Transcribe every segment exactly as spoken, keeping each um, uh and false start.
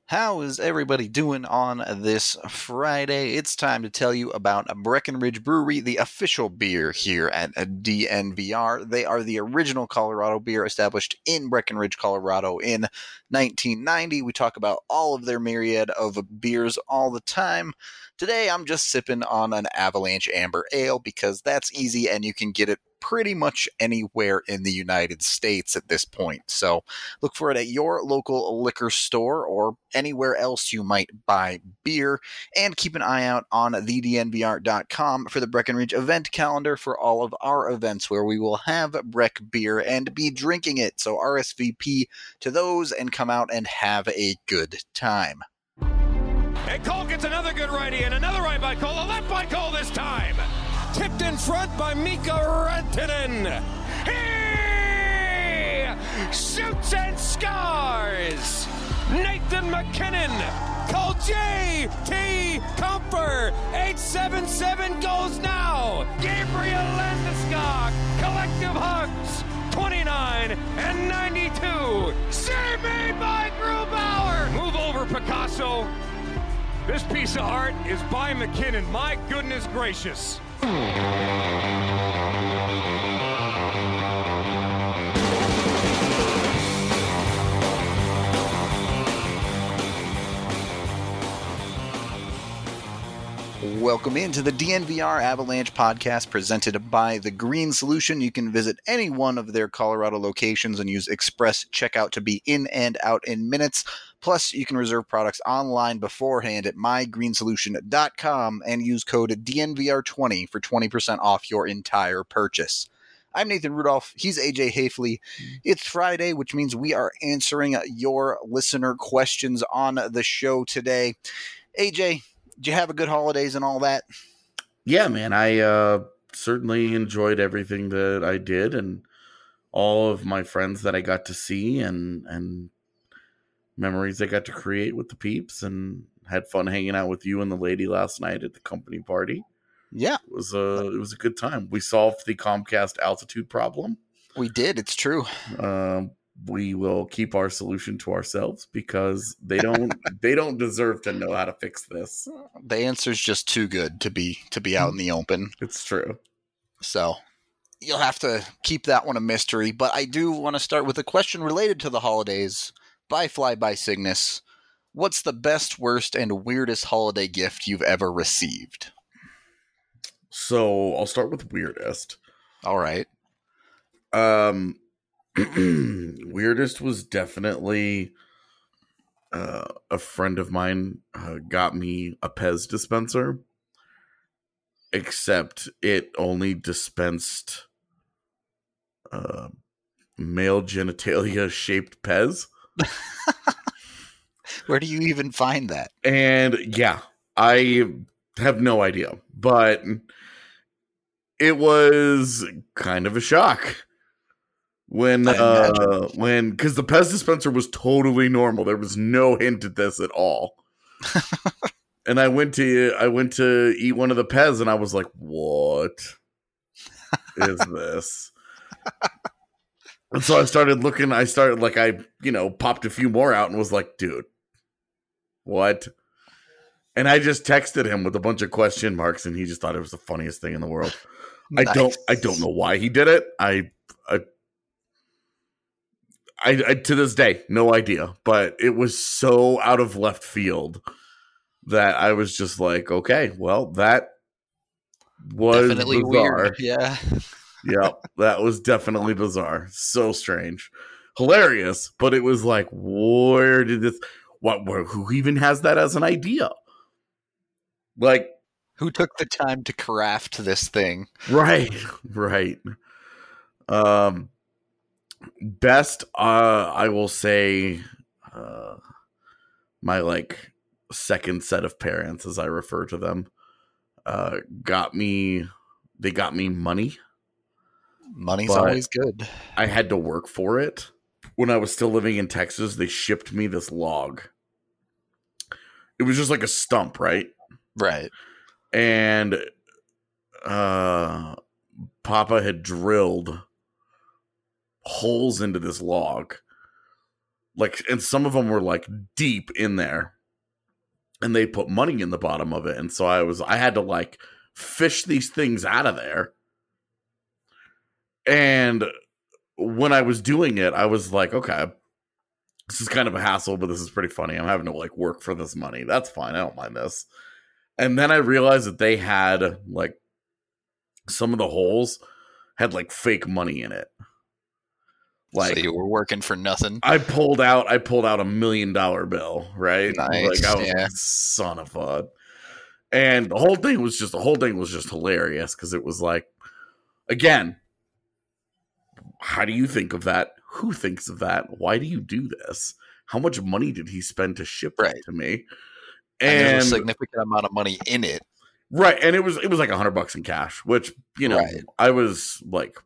How is everybody doing on this Friday? It's time to tell you about Breckenridge Brewery, the official beer here at D N V R. They are the original Colorado beer established in Breckenridge, Colorado in nineteen ninety. We talk about all of their myriad of beers all the time. Today, I'm just sipping on an Avalanche Amber Ale because that's easy and you can get it pretty much anywhere in the United States at this point. So look for it at your local liquor store or anywhere else you might buy beer. And keep an eye out on the d n v r dot com for the Breckenridge event calendar for all of our events where we will have Breck beer and be drinking it. So R S V P to those and come out and have a good time. And Cole gets another good righty and another right by Cole. A left by Cole this time. Tipped in front by Mika Rantanen. He shoots and scores. Nathan MacKinnon. Cole J T Comfer. eight seven seven goes now. Gabriel Landeskog. Collective hugs. twenty-nine and ninety-two. Save made by Grubauer. Move over, Picasso. This piece of art is by McKinnon. My goodness gracious. Welcome into the D N V R Avalanche podcast presented by The Green Solution. You can visit any one of their Colorado locations and use Express Checkout to be in and out in minutes. Plus, you can reserve products online beforehand at my green solution dot com and use code D N V R twenty for twenty percent off your entire purchase. I'm Nathan Rudolph. He's A J Hafley. It's Friday, which means we are answering your listener questions on the show today. A J, did you have a good holidays and all that? Yeah, man. I uh, certainly enjoyed everything that I did and all of my friends that I got to see and and memories I got to create with the peeps, and had fun hanging out with you and the lady last night at the company party. Yeah. It was a, it was a good time. We solved the Comcast altitude problem. We did. It's true. Um, we will keep our solution to ourselves because they don't they don't deserve to know how to fix this. The answer's just too good to be to be out in the open. It's true. So you'll have to keep that one a mystery. But I do want to start with a question related to the holidays by Fly by Cygnus. What's the best, worst, and weirdest holiday gift you've ever received? So I'll start with weirdest. All right. Um, weirdest was definitely uh, a friend of mine uh, got me a Pez dispenser, except it only dispensed uh, male genitalia shaped Pez. Where do you even find that? And yeah, I have no idea, but it was kind of a shock when, uh, when, because the Pez dispenser was totally normal. There was no hint at this at all. And I went to, I went to eat one of the Pez and I was like, what is this? And so I started looking, I started like, I, you know, popped a few more out and was like, dude, what? And I just texted him with a bunch of question marks and he just thought it was the funniest thing in the world. Nice. I don't, I don't know why he did it. I, I, I, I, to this day, no idea, but it was so out of left field that I was just like, okay, well, that was definitely bizarre. Weird. Yeah. Yeah, that was definitely bizarre. So strange. Hilarious, but it was like, where did this, what, where, who even has that as an idea? Like, who took the time to craft this thing? Right, right. Um, best, uh, I will say, uh, my like second set of parents, as I refer to them, uh, got me, they got me money. Money's always good. I had to work for it. When I was still living in Texas, they shipped me this log. It was just like a stump, right? Right. And uh, Papa had drilled holes into this log like, and some of them were like deep in there, and they put money in the bottom of it. And so I was, I had to like fish these things out of there. And when I was doing it, I was like, okay, this is kind of a hassle, but this is pretty funny. I'm having to like work for this money. That's fine. I don't mind this. And then I realized that they had like some of the holes had like fake money in it. Like, so you were working for nothing. I pulled out, I pulled out a million dollar bill, right? Nice. Like I was yeah. like, son of a. And the whole thing was just, the whole thing was just hilarious because it was like, again, how do you think of that? Who thinks of that? Why do you do this? How much money did he spend to ship right. it to me? And, and there's a significant amount of money in it. Right. And it was it was like a hundred bucks in cash, which, you know, right. I was like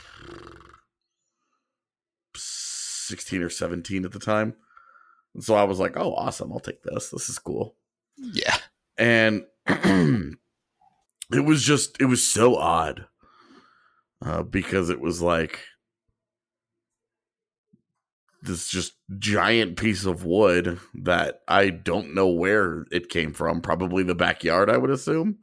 sixteen or seventeen at the time. And so I was like, oh, awesome. I'll take this. This is cool. Yeah. And it was just, it was so odd uh, because it was like this just giant piece of wood that I don't know where it came from. Probably the backyard, I would assume.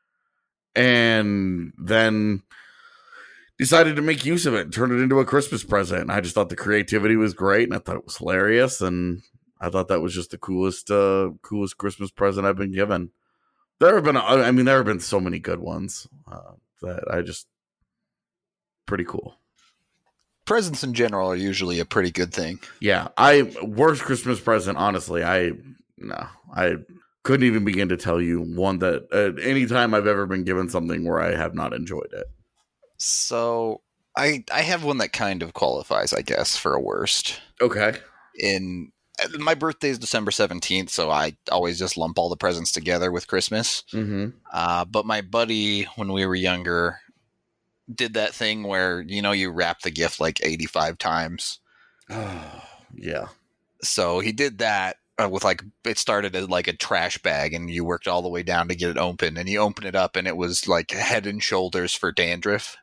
And then decided to make use of it and turn it into a Christmas present. And I just thought the creativity was great, and I thought it was hilarious. And I thought that was just the coolest, uh, coolest Christmas present I've been given. There have been, I mean, there have been so many good ones uh, that I just, pretty cool. Presents in general are usually a pretty good thing. Yeah. I, worst Christmas present, honestly, I, no, I couldn't even begin to tell you one that at any time I've ever been given something where I have not enjoyed it. So I, I have one that kind of qualifies, I guess, for a worst. Okay. In my birthday is December seventeenth, so I always just lump all the presents together with Christmas. Mm-hmm. Uh, but my buddy, when we were younger, did that thing where, you know, you wrap the gift like eighty-five times. Oh, yeah. So he did that uh, with like, it started as like a trash bag, and you worked all the way down to get it open, and you open it up and it was like Head and Shoulders for dandruff.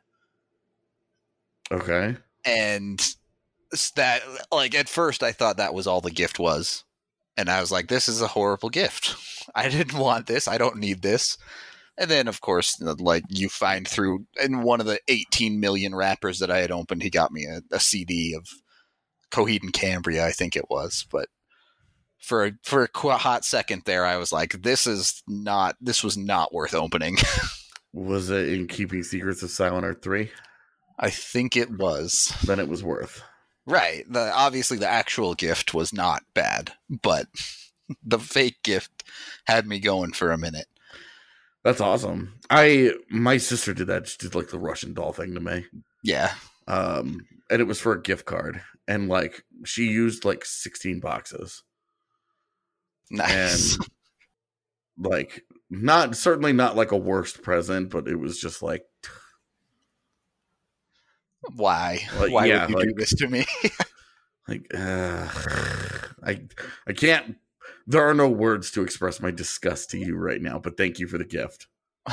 Okay. And that, like, at first I thought that was all the gift was. And I was like, this is a horrible gift. I didn't want this. I don't need this. And then, of course, like, you find through in one of the eighteen million wrappers that I had opened, he got me a, a C D of Coheed and Cambria, I think it was. But for for a hot second there, I was like, this is not, this was not worth opening. Was it in Keeping Secrets of Silent Earth three? I think it was. Then it was worth. Right. The obviously the actual gift was not bad, but the fake gift had me going for a minute. That's awesome. I my sister did that. She did like the Russian doll thing to me. Yeah. Um, and it was for a gift card, and like she used like sixteen boxes. Nice. And like not certainly not like a worst present, but it was just like, why? Like, why yeah, would you like, do this to me? like, uh, I I can't. There are no words to express my disgust to you right now, but thank you for the gift.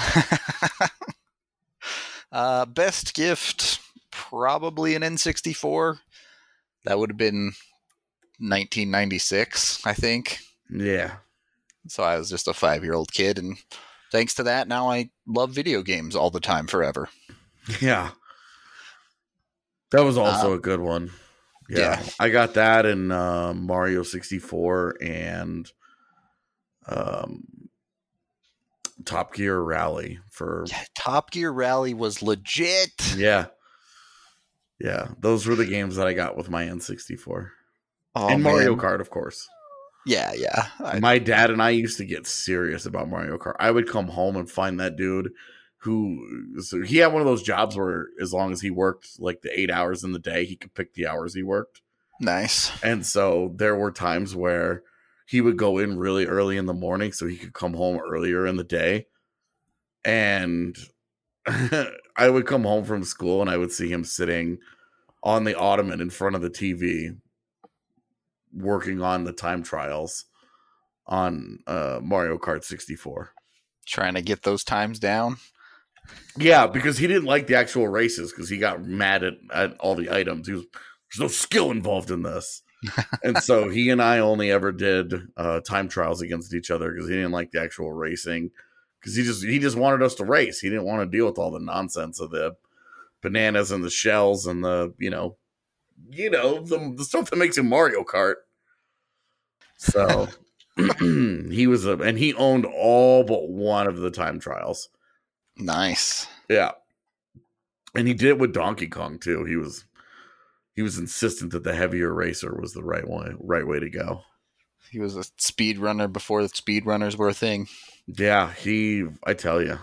uh, best gift, probably an N sixty-four. That would have been nineteen ninety-six, I think. Yeah. So I was just a five-year-old kid, and thanks to that, now I love video games all the time, forever. Yeah. That was also uh, a good one. Yeah, yeah. I got that in uh, Mario sixty-four and um, Top Gear Rally for yeah, Top Gear Rally was legit. Yeah, yeah, those were the games that I got with my N sixty-four. Oh, and Mario man. Kart, of course. Yeah, yeah. I, my dad and I used to get serious about Mario Kart. I would come home and find that dude who, so he had one of those jobs where as long as he worked like the eight hours in the day, he could pick the hours he worked. Nice. And so there were times where he would go in really early in the morning so he could come home earlier in the day. And I would come home from school and I would see him sitting on the ottoman in front of the T V working on the time trials on uh, Mario Kart sixty-four. Trying to get those times down? Yeah, because he didn't like the actual races because he got mad at, at all the items. He was, there's no skill involved in this. And so he and I only ever did uh, time trials against each other because he didn't like the actual racing. Because he just he just wanted us to race. He didn't want to deal with all the nonsense of the bananas and the shells and the you know, you know the, the stuff that makes him Mario Kart. So he was a and he owned all but one of the time trials. Nice. Yeah, and he did it with Donkey Kong too. He was. He was insistent that the heavier racer was the right way, right way to go. He was a speed runner before the speed runners were a thing. Yeah, he. I tell you.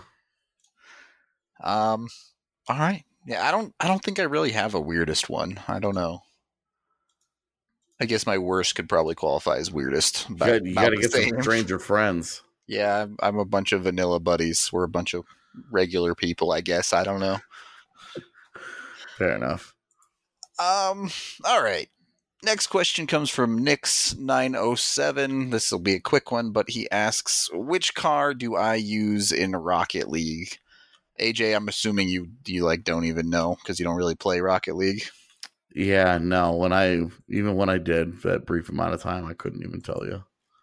Um. All right. Yeah, I don't. I don't think I really have a weirdest one. I don't know. I guess my worst could probably qualify as weirdest. About, you got to get same. some stranger friends. Yeah, I'm a bunch of vanilla buddies. We're a bunch of regular people, I guess. I don't know. Fair enough. Um, all right. Next question comes from Nix nine oh seven. This will be a quick one, but he asks, which car do I use in Rocket League? A J, I'm assuming you you like don't even know because you don't really play Rocket League. Yeah, no. When I even when I did for that brief amount of time, I couldn't even tell you.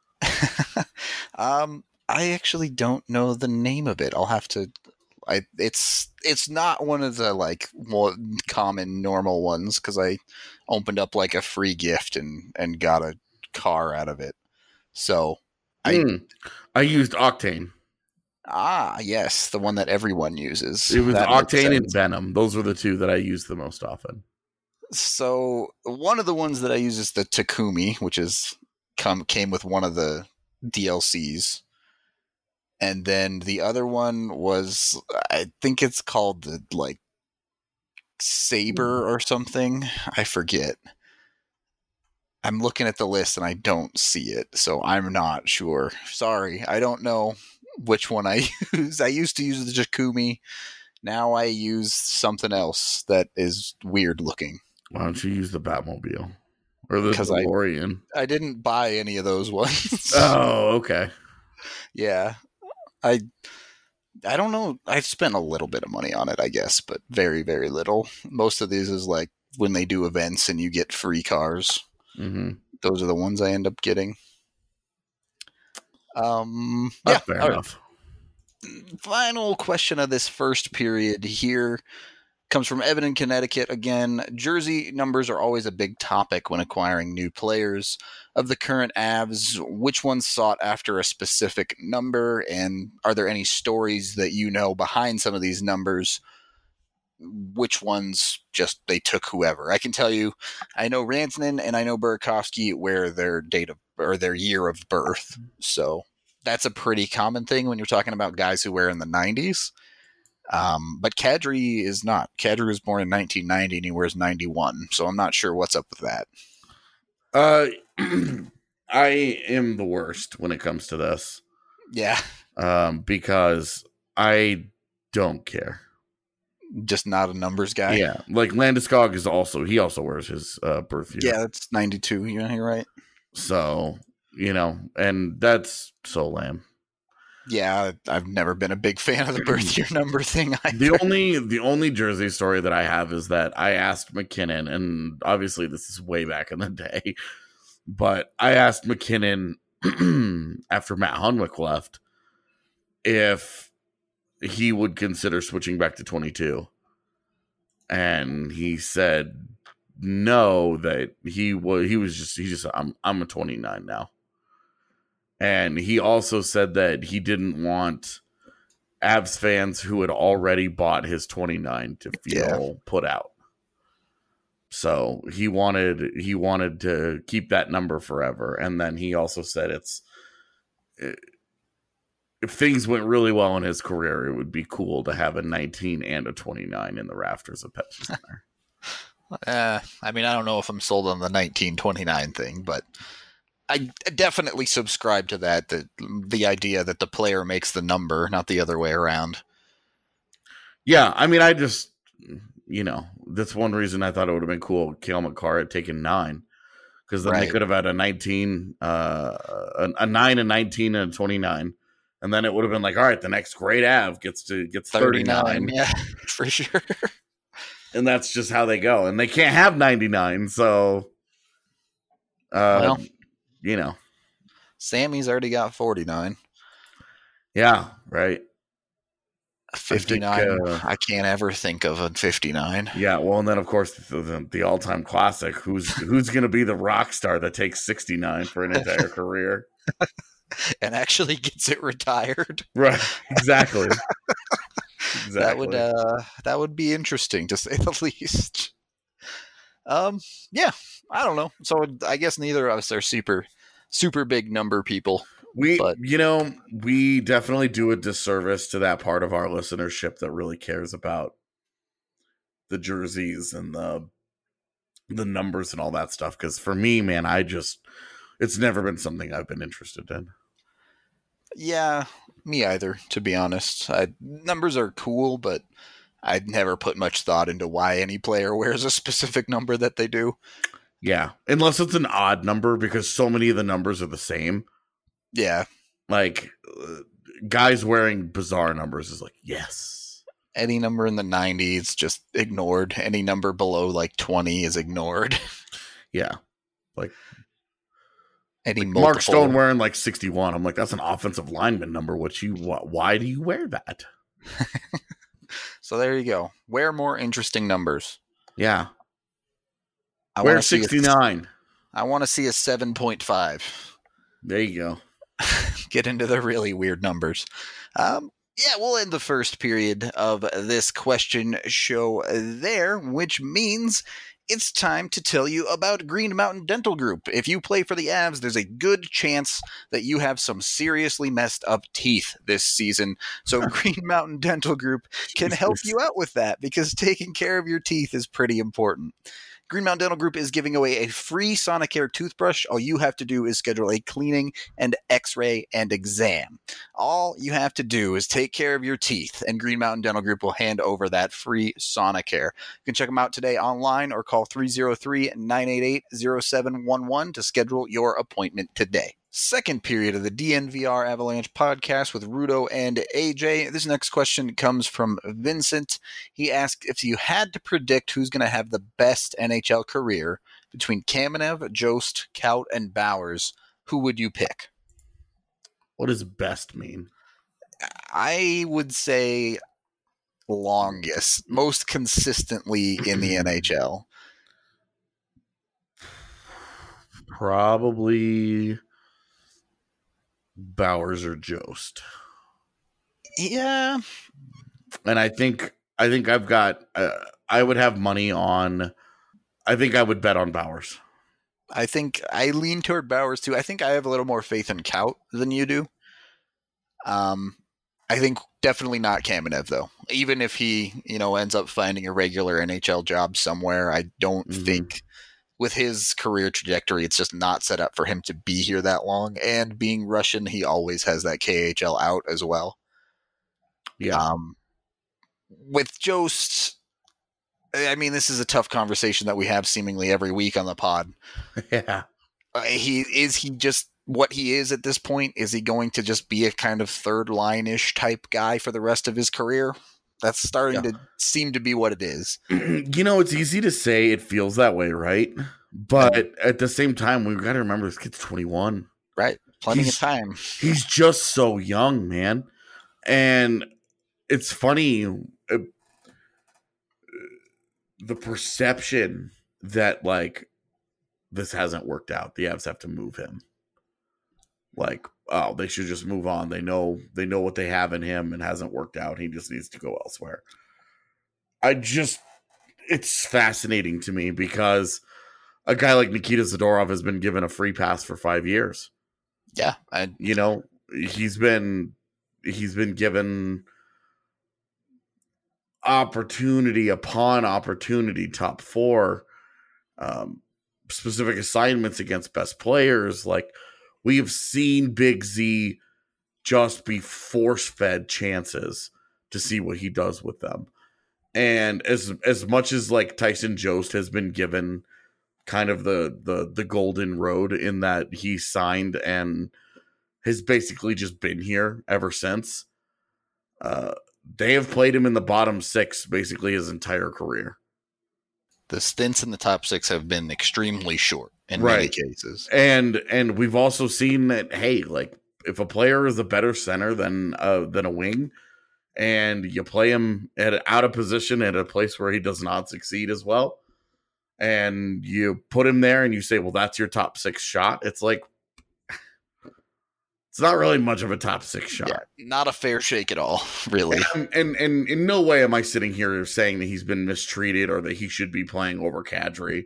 um, I actually don't know the name of it. I'll have to I it's it's not one of the like more common normal ones because I opened up like a free gift and, and got a car out of it. So I mm, I used Octane. Ah, yes, the one that everyone uses. It was that Octane and Venom. Those were the two that I used the most often. So one of the ones that I use is the Takumi, which is come came with one of the D L Cs. And then the other one was, I think it's called the, like, Saber or something. I forget. I'm looking at the list and I don't see it, so I'm not sure. Sorry, I don't know which one I use. I used to use the Takumi. Now I use something else that is weird looking. Why don't you use the Batmobile? Or the DeLorean? I, I didn't buy any of those ones. Oh, okay. Yeah. I I don't know. I've spent a little bit of money on it, I guess, but very, very little. Most of these is like when they do events and you get free cars. Mm-hmm. Those are the ones I end up getting. Um, That's yeah, fair enough. Right. Final question of this first period here comes from Evan in Connecticut. Again, jersey numbers are always a big topic when acquiring new players. Of the current Avs, which ones sought after a specific number, and are there any stories that you know behind some of these numbers? Which ones just they took whoever? I can tell you, I know Rantanen and I know Burakovsky wear their date of or their year of birth, so that's a pretty common thing when you're talking about guys who wear in the nineties. Um, but Kadri is not. Kadri was born in nineteen ninety and he wears ninety-one, so I'm not sure what's up with that. Uh, I am the worst when it comes to this. Yeah. Um, because I don't care. Just not a numbers guy. Yeah, like Landeskog is also he also wears his uh, birth year. Yeah, that's ninety-two. Yeah, you're right. So you know, and that's so lame. Yeah, I've never been a big fan of the birth year number thing either. The only the only jersey story that I have is that I asked McKinnon, and obviously this is way back in the day, but I asked McKinnon after Matt Hunwick left if he would consider switching back to twenty-two. And he said no, that he was he was just he just I'm I'm a twenty-nine now. And he also said that he didn't want Avs fans who had already bought his twenty-nine to feel yeah. put out. So he wanted he wanted to keep that number forever. And then he also said it's if things went really well in his career, it would be cool to have a nineteen and a twenty-nine in the rafters of Pepsi Center. uh, I mean, I don't know if I'm sold on the nineteen twenty-nine thing, but I definitely subscribe to that, the, the idea that the player makes the number, not the other way around. Yeah, I mean, I just, you know, that's one reason I thought it would have been cool if Cale Makar had taken nine, because then right. they could have had a nineteen, uh, a, a nine, a nineteen, and a twenty-nine. And then it would have been like, all right, the next great Av gets to gets thirty-nine. thirty-nine. Yeah, for sure. And that's just how they go. And they can't have ninety-nine, so... Uh, Well, you know, Sammy's already got forty-nine. yeah, right. fifty-nine. I, think, uh, I can't ever think of a fifty-nine. Yeah, well, and then of course the, the, the all-time classic. Who's who's going to be the rock star that takes sixty-nine for an entire career and actually gets it retired? Right. Exactly. Exactly. That would uh, that would be interesting to say the least. Um, yeah, I don't know. So I guess neither of us are super, super big number people. We, but you know, we definitely do a disservice to that part of our listenership that really cares about the jerseys and the the numbers and all that stuff. Because for me, man, I just it's never been something I've been interested in. Yeah, me either. To be honest, I, numbers are cool, but I'd never put much thought into why any player wears a specific number that they do. Yeah, unless it's an odd number, because so many of the numbers are the same. Yeah. Like, uh, guys wearing bizarre numbers is like, yes. Any number in the nineties, just ignored. Any number below, like, twenty is ignored. Yeah. Like, Any like multiple... Mark Stone wearing, like, sixty-one. I'm like, that's an offensive lineman number. What you? Wh- why do you wear that? So there you go. Wear more interesting numbers. Yeah. I wear sixty-nine. A, I want to see a seven point five. There you go. Get into the really weird numbers. Um, yeah, we'll end the first period of this question show there, which means it's time to tell you about Green Mountain Dental Group. If you play for the Avs, there's a good chance that you have some seriously messed up teeth this season. So Green Mountain Dental Group can help you out with that, because taking care of your teeth is pretty important. Green Mountain Dental Group is giving away a free Sonicare toothbrush. All you have to do is schedule a cleaning and x-ray and exam. All you have to do is take care of your teeth, and Green Mountain Dental Group will hand over that free Sonicare. You can check them out today online or call three oh three, nine eight eight, oh seven one one to schedule your appointment today. Second period of the D N V R Avalanche podcast with Rudo and A J. This next question comes from Vincent. He asked, if you had to predict who's going to have the best N H L career between Kamenev, Jost, Kaut, and Bowers, who would you pick? What does best mean? I would say longest, most consistently in the N H L. Probably Bowers or Jost. Yeah. And I think I think I've got uh, I would have money on I think I would bet on Bowers. I think I lean toward Bowers too. I think I have a little more faith in Kaut than you do. Um I think definitely not Kamenev though. Even if he, you know, ends up finding a regular N H L job somewhere, I don't mm-hmm. think with his career trajectory, it's just not set up for him to be here that long. And being Russian, he always has that K H L out as well. Yeah. Um, with Jost, I mean, this is a tough conversation that we have seemingly every week on the pod. Yeah. Uh, he is he just what he is at this point? Is he going to just be a kind of third line-ish type guy for the rest of his career? That's starting yeah. to seem to be what it is. You know, it's easy to say it feels that way, right? But yeah. at the same time, we've got to remember this kid's twenty-one. Right. Plenty he's, of time. He's just so young, man. And it's funny, uh, the perception that, like, this hasn't worked out. The Avs have to move him. Like, oh, they should just move on. They know they know what they have in him and hasn't worked out. He just needs to go elsewhere. I just, it's fascinating to me because a guy like Nikita Zadorov has been given a free pass for five years. Yeah. I, you know, he's been, he's been given opportunity upon opportunity, top four, um, specific assignments against best players. Like, we have seen Big Z just be force-fed chances to see what he does with them. And as as much as like Tyson Jost has been given kind of the the the golden road in that he signed and has basically just been here ever since, uh, they have played him in the bottom six basically his entire career. The stints in the top six have been extremely short in Right. many cases. And and we've also seen that, hey, like if a player is a better center than uh, than a wing, and you play him at out of position at a place where he does not succeed as well, and you put him there and you say, well, that's your top six shot. It's like, it's not really much of a top six shot. Yeah, not a fair shake at all, really. And, and and in no way am I sitting here saying that he's been mistreated or that he should be playing over Kadri.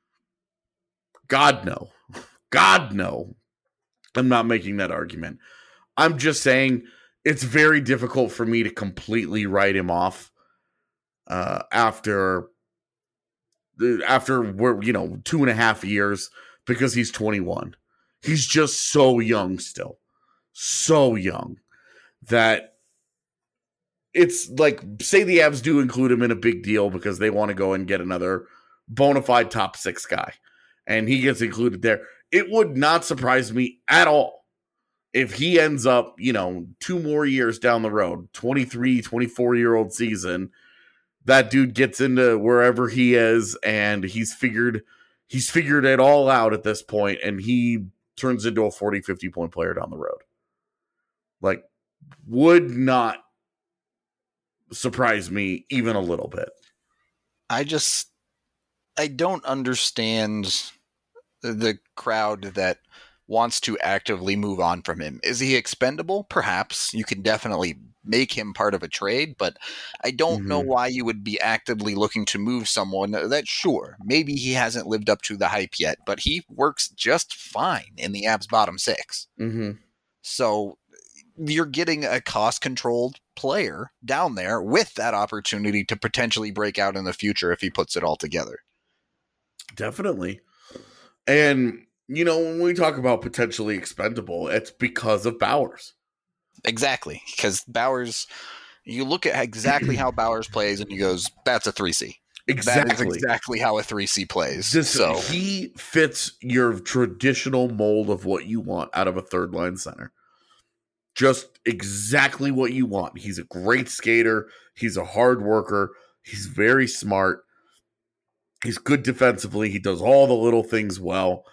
God, no. God, no. I'm not making that argument. I'm just saying it's very difficult for me to completely write him off uh, after after we're you know two and a half years because he's twenty-one. He's just so young still. So young that it's like, say the Avs do include him in a big deal because they want to go and get another bona fide top six guy and he gets included there. It would not surprise me at all if he ends up, you know, two more years down the road, twenty-three, twenty-four year old season, that dude gets into wherever he is and he's figured, he's figured it all out at this point and he turns into a forty, fifty point player down the road. Like, would not surprise me even a little bit. I just, I don't understand the crowd that wants to actively move on from him. Is he expendable? Perhaps. You can definitely make him part of a trade, but I don't mm-hmm. know why you would be actively looking to move someone that, sure, maybe he hasn't lived up to the hype yet, but he works just fine in the Avs bottom six. Mm-hmm. So you're getting a cost-controlled player down there with that opportunity to potentially break out in the future if he puts it all together. Definitely. And, you know, when we talk about potentially expendable, it's because of Bowers. Exactly. Because Bowers, you look at exactly how Bowers plays and he goes, that's a three C. Exactly. That is exactly how a three C plays. This, so he fits your traditional mold of what you want out of a third line center. Just exactly what you want. He's a great skater. He's a hard worker. He's very smart. He's good defensively. He does all the little things well.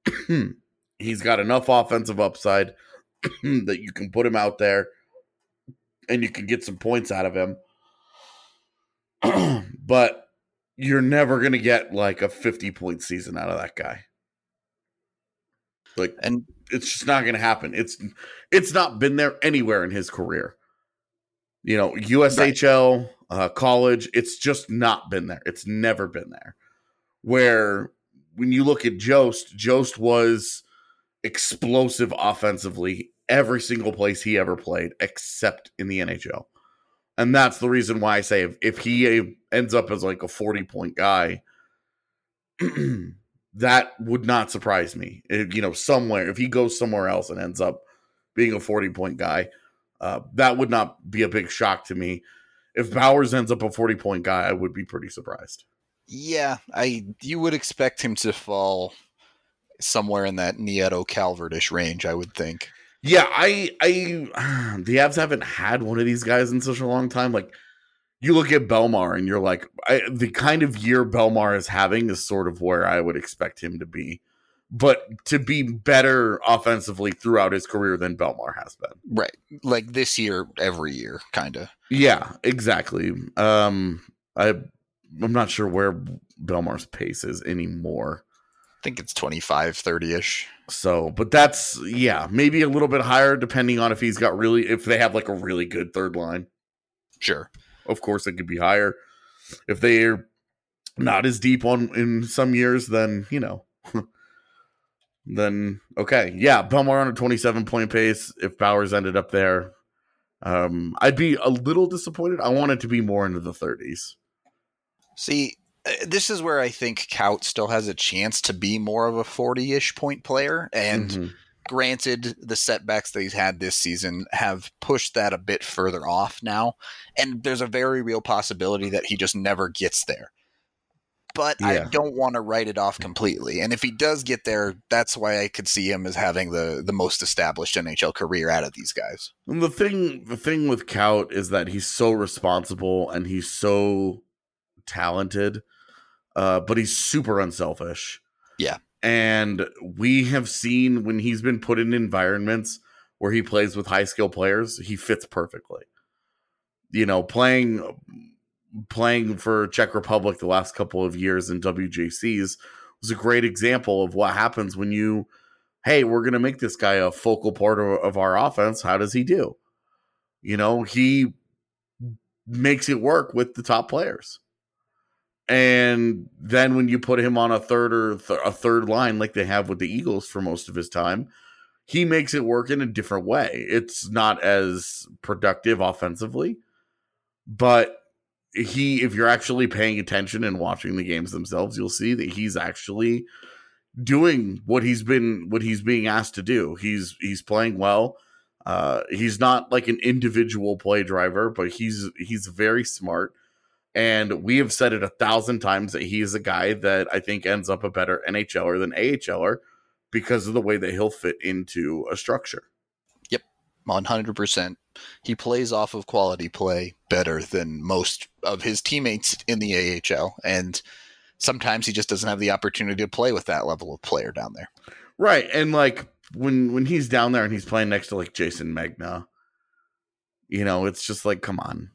He's got enough offensive upside that you can put him out there and you can get some points out of him. But you're never going to get like a fifty-point season out of that guy. Like, and it's just not going to happen. It's it's not been there anywhere in his career. You know, U S H L, right. uh, college, it's just not been there. It's never been there. Where when you look at Jost, Jost was explosive offensively every single place he ever played, except in the N H L. And that's the reason why I say if, if he ends up as like a forty-point guy, that would not surprise me. If, you know, somewhere, if he goes somewhere else and ends up being a forty-point guy, uh, that would not be a big shock to me. If Bowers ends up a forty-point guy, I would be pretty surprised. Yeah, I you would expect him to fall somewhere in that Nieto Calvert-ish range, I would think. Yeah, I, I, the Avs haven't had one of these guys in such a long time. Like, you look at Belmar and you're like, I, the kind of year Belmar is having is sort of where I would expect him to be. But to be better offensively throughout his career than Belmar has been. Right. Like this year, every year, kind of. Yeah, exactly. Um, I, I'm not sure where Belmar's pace is anymore. I think it's twenty-five, thirty-ish. So, but that's, yeah, maybe a little bit higher depending on if he's got really, if they have like a really good third line. Sure. Of course, it could be higher. If they're not as deep on in some years, then, you know, then, okay. Yeah, Belmar on a twenty-seven point pace. If Bowers ended up there, um, I'd be a little disappointed. I want it to be more into the thirties. See, this is where I think Kaut still has a chance to be more of a forty-ish point player. And mm-hmm. granted, the setbacks that he's had this season have pushed that a bit further off now. And there's a very real possibility that he just never gets there. But yeah. I don't want to write it off completely. And if he does get there, that's why I could see him as having the, the most established N H L career out of these guys. And the thing, the thing with Kaut is that he's so responsible and he's so talented uh, but he's super unselfish. Yeah. And we have seen when he's been put in environments where he plays with high skill players, he fits perfectly. You know, playing playing for Czech Republic the last couple of years in W J Cs was a great example of what happens when you, hey, we're going to make this guy a focal part of, of our offense. How does he do? You know, he makes it work with the top players. And then when you put him on a third or th- a third line like they have with the Eagles for most of his time, he makes it work in a different way. It's not as productive offensively, but he, if you're actually paying attention and watching the games themselves, you'll see that he's actually doing what he's been, what he's being asked to do. He's, he's playing well. Uh, he's not like an individual play driver, but he's, he's very smart. And we have said it a thousand times that he is a guy that I think ends up a better NHLer than AHLer because of the way that he'll fit into a structure. Yep, one hundred percent. He plays off of quality play better than most of his teammates in the A H L. And sometimes he just doesn't have the opportunity to play with that level of player down there. Right. And like when, when he's down there and he's playing next to like Jason Megna, you know, it's just like, come on.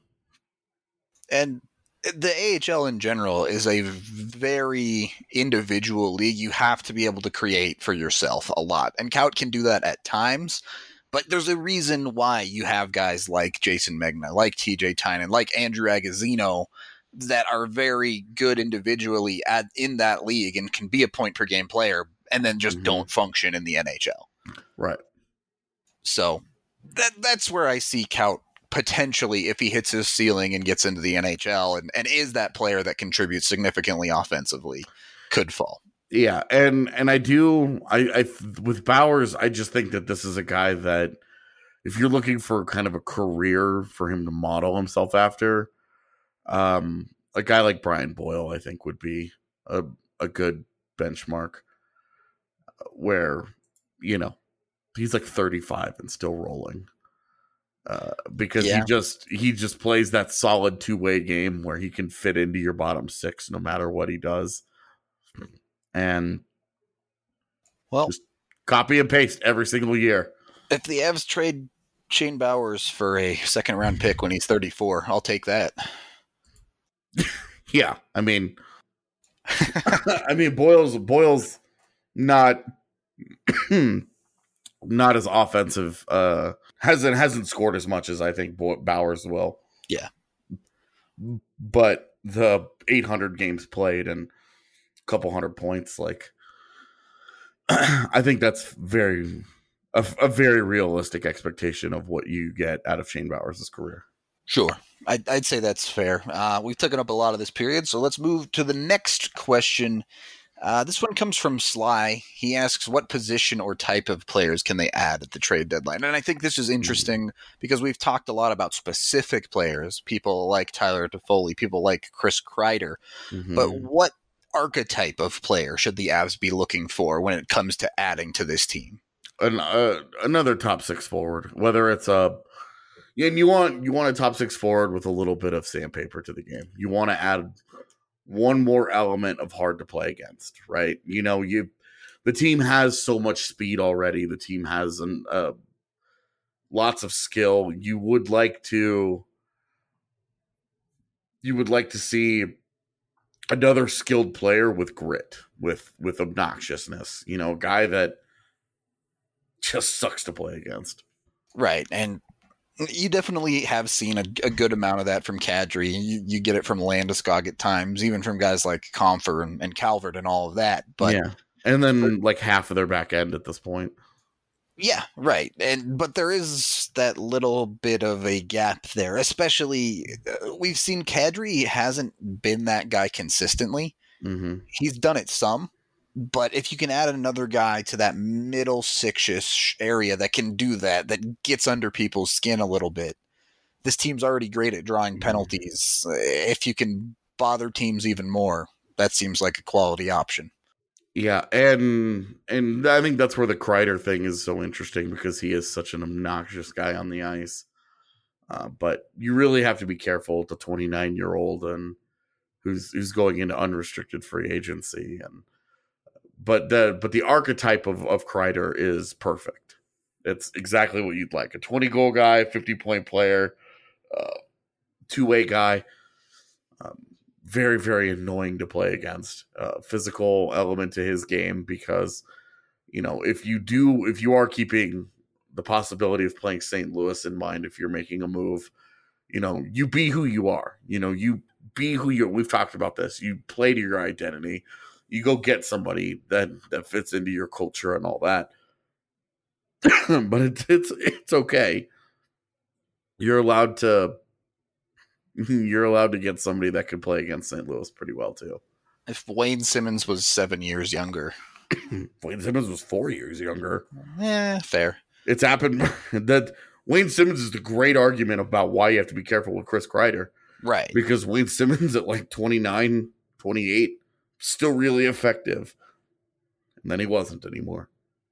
And the A H L in general is a very individual league. You have to be able to create for yourself a lot. And Kaut can do that at times, but there's a reason why you have guys like Jason Megna, like T J Tynan, like Andrew Agozzino that are very good individually at in that league and can be a point per game player and then just mm-hmm. don't function in the N H L. Right. So that that's where I see Kaut potentially, if he hits his ceiling and gets into the N H L and, and is that player that contributes significantly offensively, could fall. Yeah. And, and I do, I, I, with Bowers, I just think that this is a guy that if you're looking for kind of a career for him to model himself after, um, a guy like Brian Boyle, I think would be a, a good benchmark where, you know, he's like thirty-five and still rolling. Uh, because yeah. he just he just plays that solid two-way game where he can fit into your bottom six no matter what he does. And well, just copy and paste every single year. If the Avs trade Shane Bowers for a second round pick when he's thirty-four, I'll take that. Yeah, I mean I mean Boyle's Boyle's not not as offensive uh hasn't hasn't scored as much as I think Bowers will. Yeah. But the eight hundred games played and a couple hundred points, like I think that's very a, a very realistic expectation of what you get out of Shane Bowers' career. Sure. I'd, I'd say that's fair. Uh, we've taken up a lot of this period, so let's move to the next question. Uh, this one comes from Sly. He asks, what position or type of players can they add at the trade deadline? And I think this is interesting because we've talked a lot about specific players, people like Tyler Toffoli, people like Chris Kreider. Mm-hmm. But what archetype of player should the Avs be looking for when it comes to adding to this team? An, uh, another top six forward, whether it's a yeah, and you want you want a top six forward with a little bit of sandpaper to the game. You want to add one more element of hard to play against, right? You know, you the team has so much speed already. The team has an, uh, lots of skill. You would like to you would like to see another skilled player with grit, with with obnoxiousness. You know, a guy that just sucks to play against. Right, and you definitely have seen a, a good amount of that from Kadri. You, you get it from Landeskog at times, even from guys like Comfer and, and Calvert and all of that. But yeah, and then but, like half of their back end at this point. Yeah, right. And but there is that little bit of a gap there, especially uh, we've seen Kadri hasn't been that guy consistently. Mm-hmm. He's done it some. But if you can add another guy to that middle six-ish area that can do that, that gets under people's skin a little bit, this team's already great at drawing penalties. If you can bother teams even more, that seems like a quality option. Yeah, and and I think that's where the Kreider thing is so interesting because he is such an obnoxious guy on the ice. Uh, but you really have to be careful with the twenty-nine-year-old and who's who's going into unrestricted free agency. And but the but the archetype of of Kreider is perfect. It's exactly what you'd like: a twenty goal guy, fifty point player, uh, two way guy. Um, very very annoying to play against. Uh, physical element to his game, because you know if you do if you are keeping the possibility of playing Saint Louis in mind, if you're making a move, you know you be who you are. You know you be who you're. We've talked about this. You play to your identity. You go get somebody that that fits into your culture and all that. But it's it's it's okay. You're allowed to. You're allowed to get somebody that can play against Saint Louis pretty well too. If Wayne Simmons was seven years younger, Wayne Simmons was four years younger. Yeah, fair. It's happened that Wayne Simmons is the great argument about why you have to be careful with Chris Kreider. Right. Because Wayne Simmons at like twenty-nine, twenty-eight, still really effective. And then he wasn't anymore.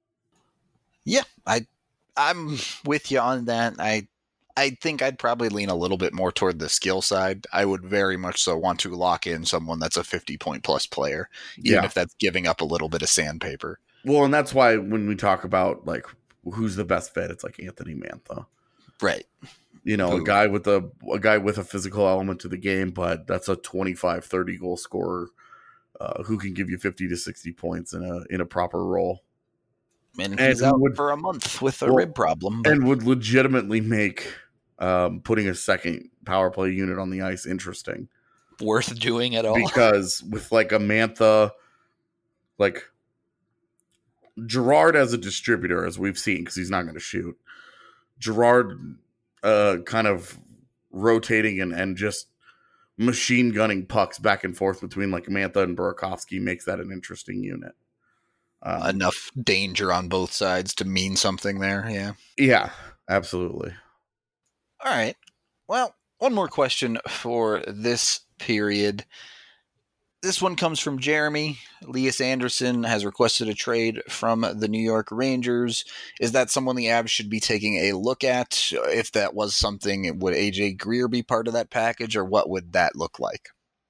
Yeah, I, I'm with you on that. I I think I'd probably lean a little bit more toward the skill side. I would very much so want to lock in someone that's a fifty-point plus player, even Yeah. if that's giving up a little bit of sandpaper. Well, and that's why when we talk about like who's the best fit, it's like Anthony Mantha. Right. You know, Who- a guy with a a guy with a physical element to the game, but that's a twenty-five, thirty goal scorer uh, who can give you fifty to sixty points in a in a proper role. And And he's out would- for a month with a well, rib problem. But And would legitimately make um, putting a second power play unit on the ice interesting. worth doing at all. Because with like a Mantha, like Gerard as a distributor, as we've seen, because he's not going to shoot. Gerard uh, kind of rotating and, and just machine gunning pucks back and forth between like Mantha and Burakovsky makes that an interesting unit. Um, Enough danger on both sides to mean something there. Yeah. yeah, absolutely. All right. Well, one more question for this period. This one comes from Jeremy. Elias Anderson has requested a trade from the New York Rangers. Is that someone the Avs should be taking a look at? If that was something, would A J Greer be part of that package, or what would that look like?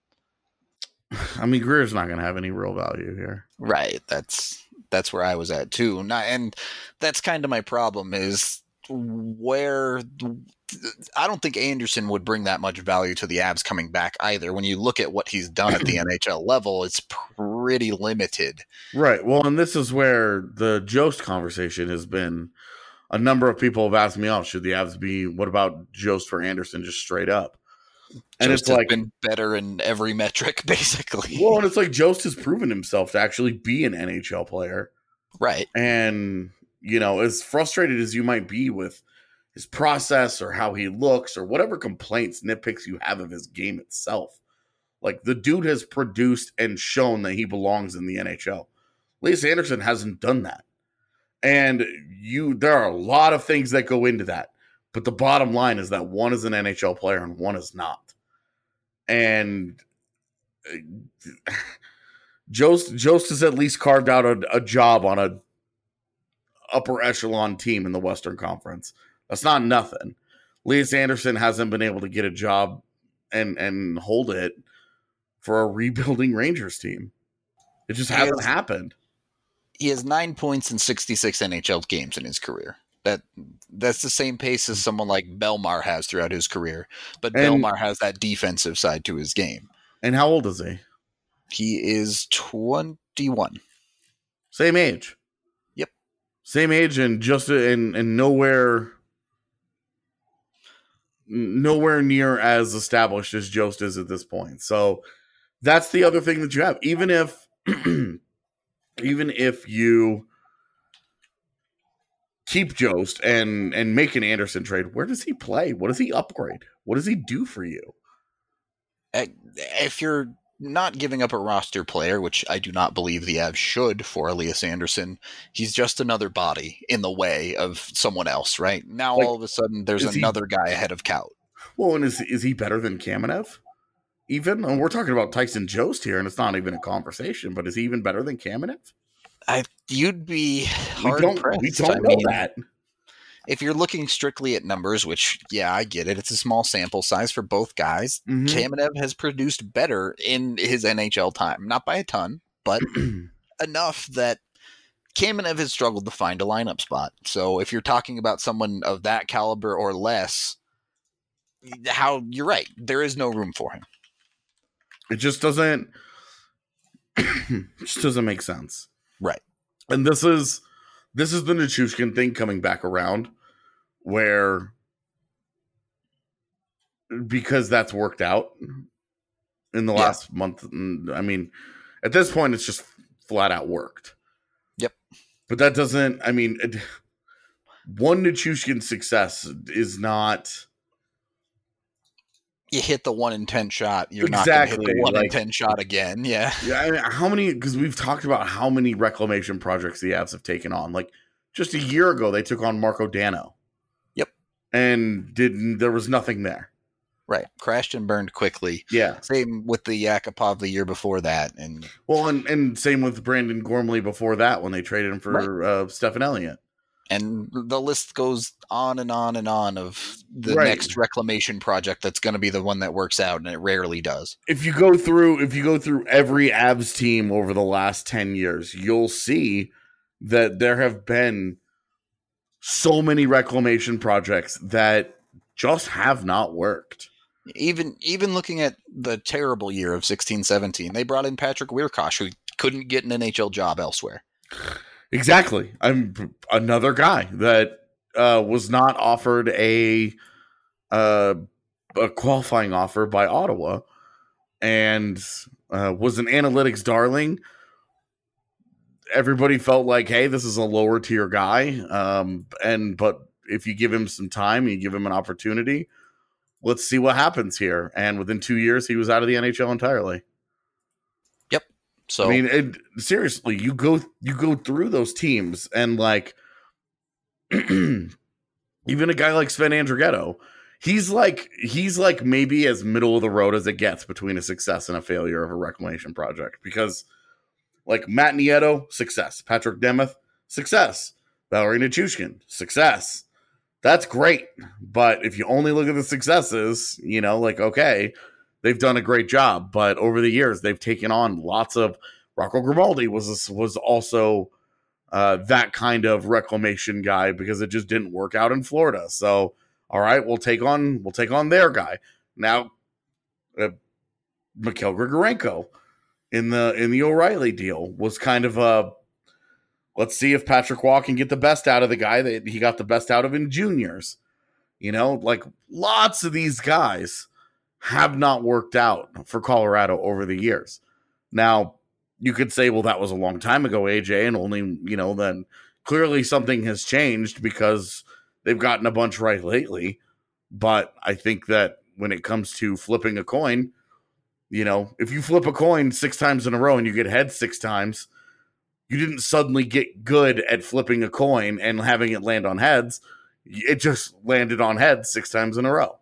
I mean, Greer's not going to have any real value here. Right. That's that's where I was at too. Not, and that's kind of my problem is where I don't think Anderson would bring that much value to the Avs coming back either. When you look at what he's done at the N H L level, it's pretty limited. Right. Well, and this is where the Jost conversation has been. A number of people have asked me, "Oh, should the Avs be? What about Jost for Anderson, just straight up?" And Jost it's has like, been better in every metric, basically. well, and it's like Jost has proven himself to actually be an N H L player, Right. and you know, as frustrated as you might be with his process or how he looks or whatever complaints, nitpicks you have of his game itself, like the dude has produced and shown that he belongs in the N H L. Elias Anderson hasn't done that. And you, there are a lot of things that go into that. But the bottom line is that one is an N H L player and one is not. And uh, Jost, Jost has at least carved out a, a job on a upper echelon team in the Western Conference. That's not nothing. Elias Anderson hasn't been able to get a job and, and hold it for a rebuilding Rangers team. It just He hasn't has- happened. He has nine points in sixty-six N H L games in his career. That that's the same pace as someone like Belmar has throughout his career. But And- Belmar has that defensive side to his game. And how old is he? He is twenty-one. Same age. Yep. Same age and just and and nowhere nowhere near as established as Jost is at this point. So that's the other thing that you have. Even if even if you keep Jost and and make an Anderson trade, where does he play? What does he upgrade? What does he do for you? Uh, If you're not giving up a roster player, which I do not believe the Avs should for Elias Anderson, he's just another body in the way of someone else, right? Now Like, all of a sudden there's is he- another guy ahead of Kaut. Well, and is is he better than Kamenev? Even and we're talking about Tyson Jost here, and it's not even a conversation. But is he even better than Kamenev? I you'd be We hard don't. pressed. We don't I know mean, that. if you're looking strictly at numbers, which, yeah, I get it, it's a small sample size for both guys, mm-hmm. Kamenev has produced better in his N H L time. Not by a ton, but enough that Kamenev has struggled to find a lineup spot. So if you're talking about someone of that caliber or less, how you're right, there is no room for him. It just doesn't it just doesn't make sense. Right. And this is this is the Nichushkin thing coming back around, where because that's worked out in the yeah. last month. I mean, at this point, it's just flat out worked. Yep. But that doesn't, I mean, it, one Nichushkin success is not. You hit the one in ten shot. You're exactly. not going to hit the one like, in ten shot again. Yeah. Yeah. I mean, how many, because we've talked about how many reclamation projects the Avs have taken on. Like just a year ago, they took on Marco Dano. Yep. And didn't, there was nothing there. Right. Crashed and burned quickly. Yeah. Same with the Yakupov the year before that. And well, and, and same with Brandon Gormley before that when they traded him for right. uh, Stefan Elliott. And the list goes on and on and on of the right. next reclamation project that's going to be the one that works out, and it rarely does. If you go through, if you go through every Avs team over the last ten years, you'll see that there have been so many reclamation projects that just have not worked. Even even looking at the terrible year of sixteen seventeen, they brought in Patrick Wierkosh, who couldn't get an N H L job elsewhere. Exactly. I'm another guy that uh, was not offered a uh, a qualifying offer by Ottawa and uh, was an analytics darling. Everybody felt like, hey, this is a lower tier guy. Um, and but if you give him some time, you give him an opportunity, let's see what happens here. And within two years, he was out of the N H L entirely. So I mean, it, seriously, you go you go through those teams and like even a guy like Sven Andrighetto, he's like he's like maybe as middle of the road as it gets between a success and a failure of a reclamation project, because like Matt Nieto, success, Patrick Nemeth, success, Valerie Nichushkin, success. That's great, but if you only look at the successes, you know, like okay. They've done a great job, but over the years they've taken on lots of. Rocco Grimaldi was was also uh, that kind of reclamation guy because it just didn't work out in Florida. So, all right, we'll take on we'll take on their guy now. Uh, Mikhail Grigorenko in the in the O'Reilly deal was kind of a. Let's see if Patrick Waugh can get the best out of the guy that he got the best out of in juniors. You know, like lots of these guys have not worked out for Colorado over the years. Now, you could say, well, that was a long time ago, A J, and only, you know, then clearly something has changed because they've gotten a bunch right lately. But I think that when it comes to flipping a coin, you know, if you flip a coin six times in a row and you get heads six times, you didn't suddenly get good at flipping a coin and having it land on heads. It just landed on heads six times in a row.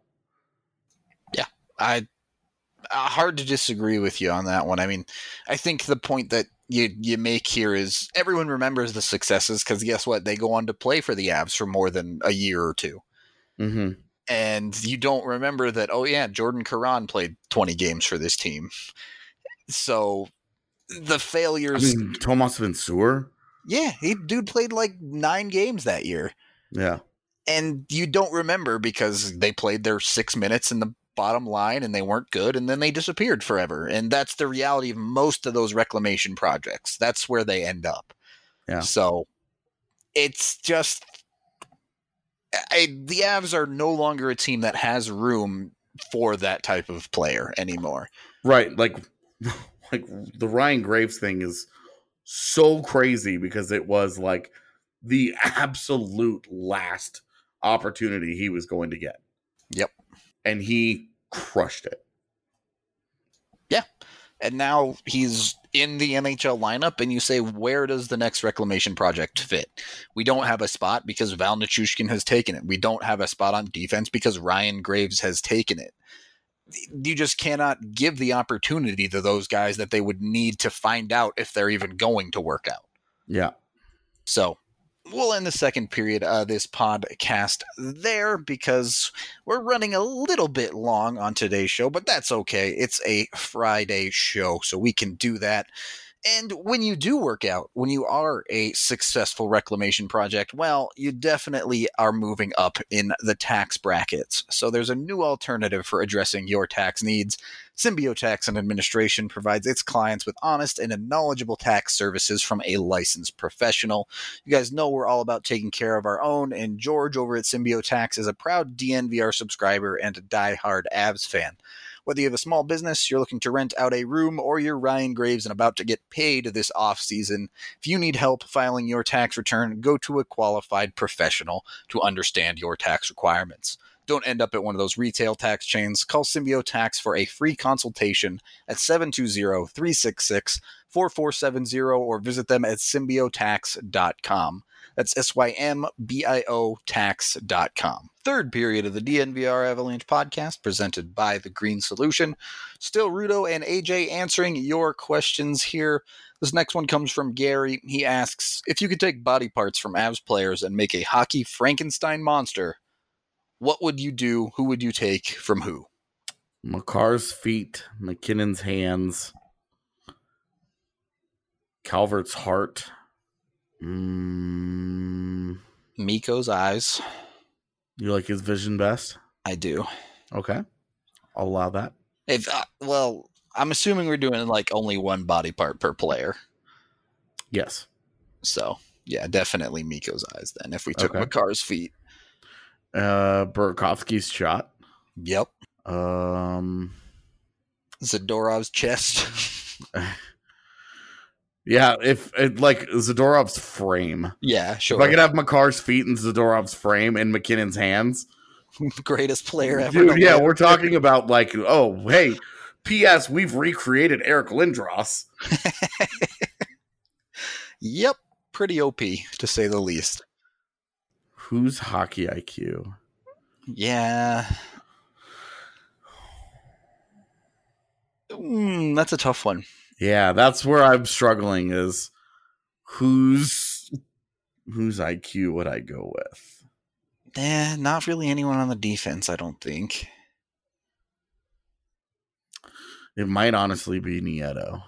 I uh, hard to disagree with you on that one. I mean, I think the point that you you make here is everyone remembers the successes because guess what? They go on to play for the Avs for more than a year or two. Mm-hmm. And you don't remember that, oh yeah, Jordan Caron played twenty games for this team. So the failures... I mean, Tomas Vincour? Yeah, he dude played like nine games that year. Yeah. And you don't remember because they played their six minutes in the bottom line and they weren't good and then they disappeared forever. And that's the reality of most of those reclamation projects. That's where they end up. Yeah. So it's just I, the Avs are no longer a team that has room for that type of player anymore. Right. Like, like the Ryan Graves thing is so crazy because it was like the absolute last opportunity he was going to get. Yep. And he crushed it. Yeah. And now he's in the N H L lineup, and you say, where does the next reclamation project fit? We don't have a spot because Val Nichushkin has taken it. We don't have a spot on defense because Ryan Graves has taken it. You just cannot give the opportunity to those guys that they would need to find out if they're even going to work out. Yeah. So we'll end the second period of this podcast there because we're running a little bit long on today's show, but that's okay. It's a Friday show, so we can do that. And when you do work out, when you are a successful reclamation project, well, you definitely are moving up in the tax brackets. So there's a new alternative for addressing your tax needs. Symbio Tax and Administration provides its clients with honest and knowledgeable tax services from a licensed professional. You guys know we're all about taking care of our own, and George over at Symbio Tax is a proud D N V R subscriber and a diehard Avs fan. Whether you have a small business, you're looking to rent out a room, or you're Ryan Graves and about to get paid this off-season, if you need help filing your tax return, go to a qualified professional to understand your tax requirements. Don't end up at one of those retail tax chains. Call Symbio Tax for a free consultation at seven two zero, three six six, four four seven zero or visit them at symbio tax dot com. That's S Y M B I O tax dot com. Third period of the D N V R Avalanche podcast presented by The Green Solution. Still Rudo and A J answering your questions here. This next one comes from Gary. He asks, if you could take body parts from Avs players and make a hockey Frankenstein monster, what would you do? Who would you take from who? Makar's feet, McKinnon's hands, Calvert's heart, mm. Mikko's eyes. You like his vision best? I do. Okay. I'll allow that. If uh, well, I'm assuming we're doing like only one body part per player. Yes. So, yeah, definitely Mikko's eyes then if we took Okay. Makar's feet. Uh, Burakovsky's shot. Yep. Um, Zadorov's chest. yeah, if it, like Zadorov's frame. Yeah, sure. If I could have Makar's feet and Zadorov's frame and McKinnon's hands. Greatest player ever. Dude, yeah, we're talking about like, oh, hey, P S we've recreated Eric Lindros. Yep. Pretty O P, to say the least. Who's hockey I Q? Yeah. Mm, that's a tough one. Yeah, that's where I'm struggling is who's whose I Q would I go with? Eh, not really anyone on the defense, I don't think. It might honestly be Nieto.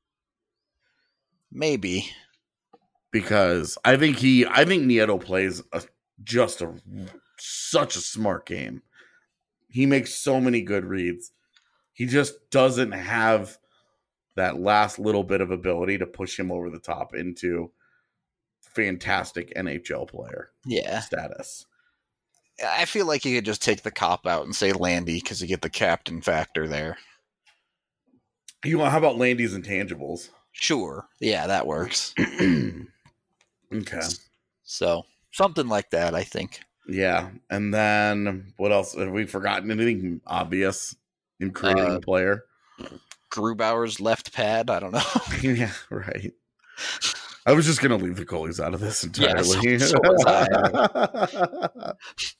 Maybe. Because I think he I think Nieto plays a, just a such a smart game. He makes so many good reads. He just doesn't have that last little bit of ability to push him over the top into fantastic N H L player Yeah. status. I feel like you could just take the cop out and say Landy because you get the captain factor there. You know, how about Landy's intangibles? Sure. Yeah, that works. Okay. So, something like that, I think. Yeah. And then what else? Have we forgotten anything obvious in creating Uh, a player? Grubauer's left pad, I don't know. Yeah, right. I was just going to leave the goalies out of this entirely. Yeah, so- so was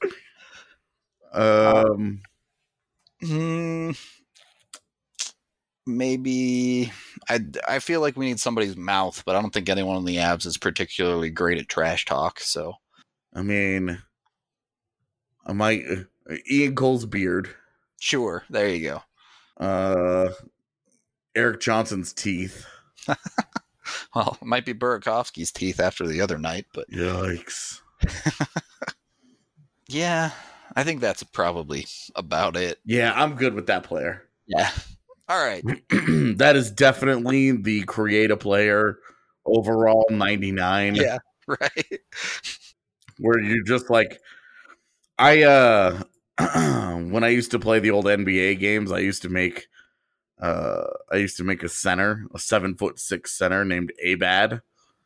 um, Hmm. Maybe I, I feel like we need somebody's mouth, but I don't think anyone on the Avs is particularly great at trash talk. So I mean, I might uh, Ian Cole's beard, sure, there you go. uh, Eric Johnson's teeth. Well, it might be Burakovsky's teeth after the other night, but Yikes! yeah, I think that's probably about it. Yeah, I'm good with that player. Yeah. All right. That is definitely the create a player overall ninety-nine. Yeah. Right. Where you're just like, I uh, when I used to play the old N B A games, I used to make. Uh, I used to make a center, a seven foot six center named Abad,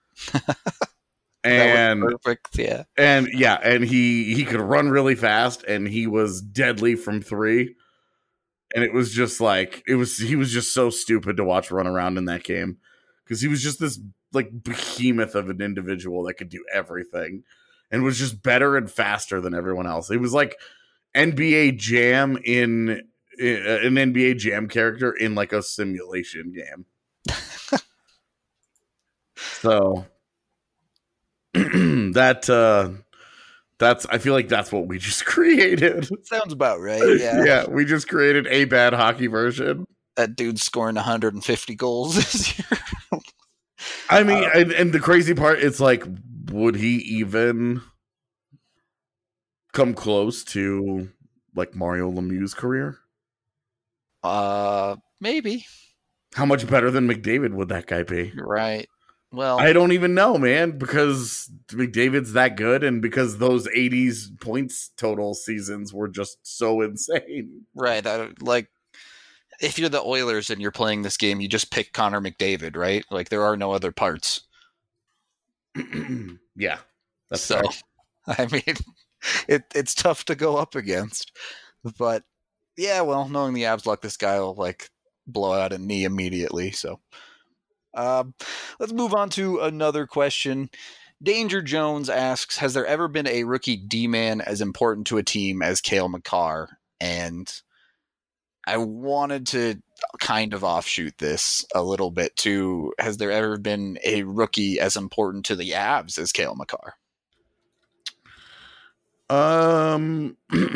and perfect. Yeah, and yeah, and he he could run really fast, and he was deadly from three, and it was just like it was. He was just so stupid to watch run around in that game because he was just this like behemoth of an individual that could do everything, and was just better and faster than everyone else. It was like N B A Jam in. An N B A Jam character in like a simulation game. So that uh, that's I feel like that's what we just created. Sounds about right. Yeah, yeah, we just created a bad hockey version. That dude's scoring one hundred fifty goals this year. I mean, uh, and, and the crazy part, it's like, would he even come close to like Mario Lemieux's career? Uh, maybe. How much better than McDavid would that guy be? Right. Well, I don't even know, man, because McDavid's that good, and because those eighties points total seasons were just so insane. Right. I, like, if you're the Oilers and you're playing this game, you just pick Connor McDavid, right? Like, there are no other parts. yeah. That's so, fair. I mean, it, it's tough to go up against. But, yeah, well, knowing the Avs luck, this guy will, like, blow out a knee immediately, so... Um, let's move on to another question. Danger Jones asks, has there ever been a rookie D-man as important to a team as Cale Makar? And I wanted to kind of offshoot this a little bit too. Has there ever been a rookie as important to the Avs as Cale Makar? Um...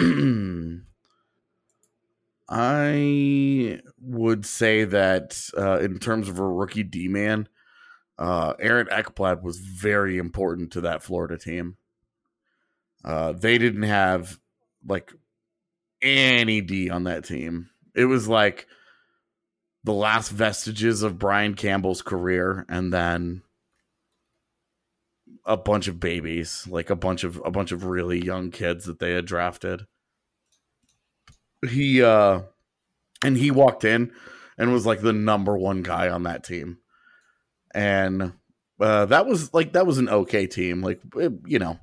I would say that uh, in terms of a rookie D-man, uh, Aaron Ekblad was very important to that Florida team. Uh, they didn't have like any D on that team. It was like the last vestiges of Brian Campbell's career, and then a bunch of babies, like a bunch of a bunch of really young kids that they had drafted. He uh and he walked in and was like the number one guy on that team. And uh that was like that was an okay team. Like it, you know.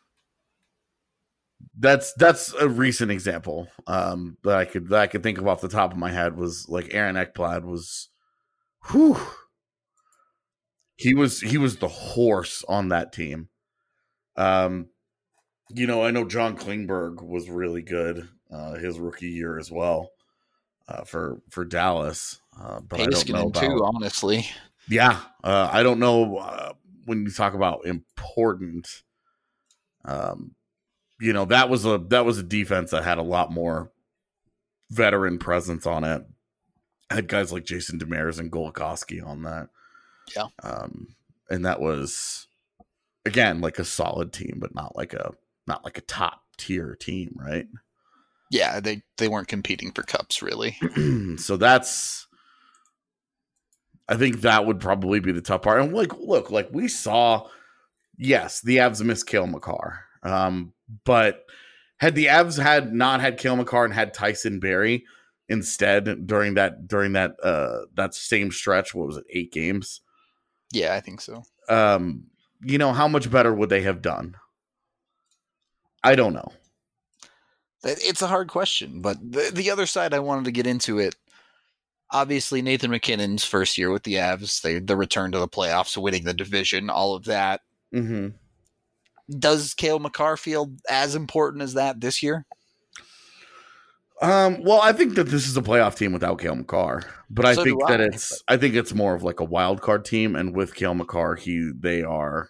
That's that's a recent example um that I could that I could think of off the top of my head was like Aaron Ekblad was whew. He was he was the horse on that team. Um you know, I know John Klingberg was really good. Uh, his rookie year as well uh, for for Dallas, uh, but Heiskanen I don't know about, too. Honestly, yeah, uh, I don't know uh, when you talk about important. Um, you know that was a that was a defense that had a lot more veteran presence on it. Had guys like Jason Demers and Goligoski on that, yeah, um, and that was again like a solid team, but not like a not like a top tier team, right? Yeah, they, they weren't competing for cups, really. So that's, I think that would probably be the tough part. And like, look, like we saw, yes, the Avs missed Cale Makar. Um, but had the Avs had not had Cale Makar and had Tyson Barrie instead during that during that uh, that same stretch, what was it, eight games? Yeah, I think so. Um, you know, how much better would they have done? I don't know. It's a hard question, but the, the other side I wanted to get into it, obviously Nathan MacKinnon's first year with the Avs, they, the return to the playoffs, winning the division, all of that. Mm-hmm. Does Cale Makar feel as important as that this year? Um, well, I think that this is a playoff team without Cale Makar, but I so think that I, it's but... I think it's more of like a wild card team, and with Cale Makar, he they are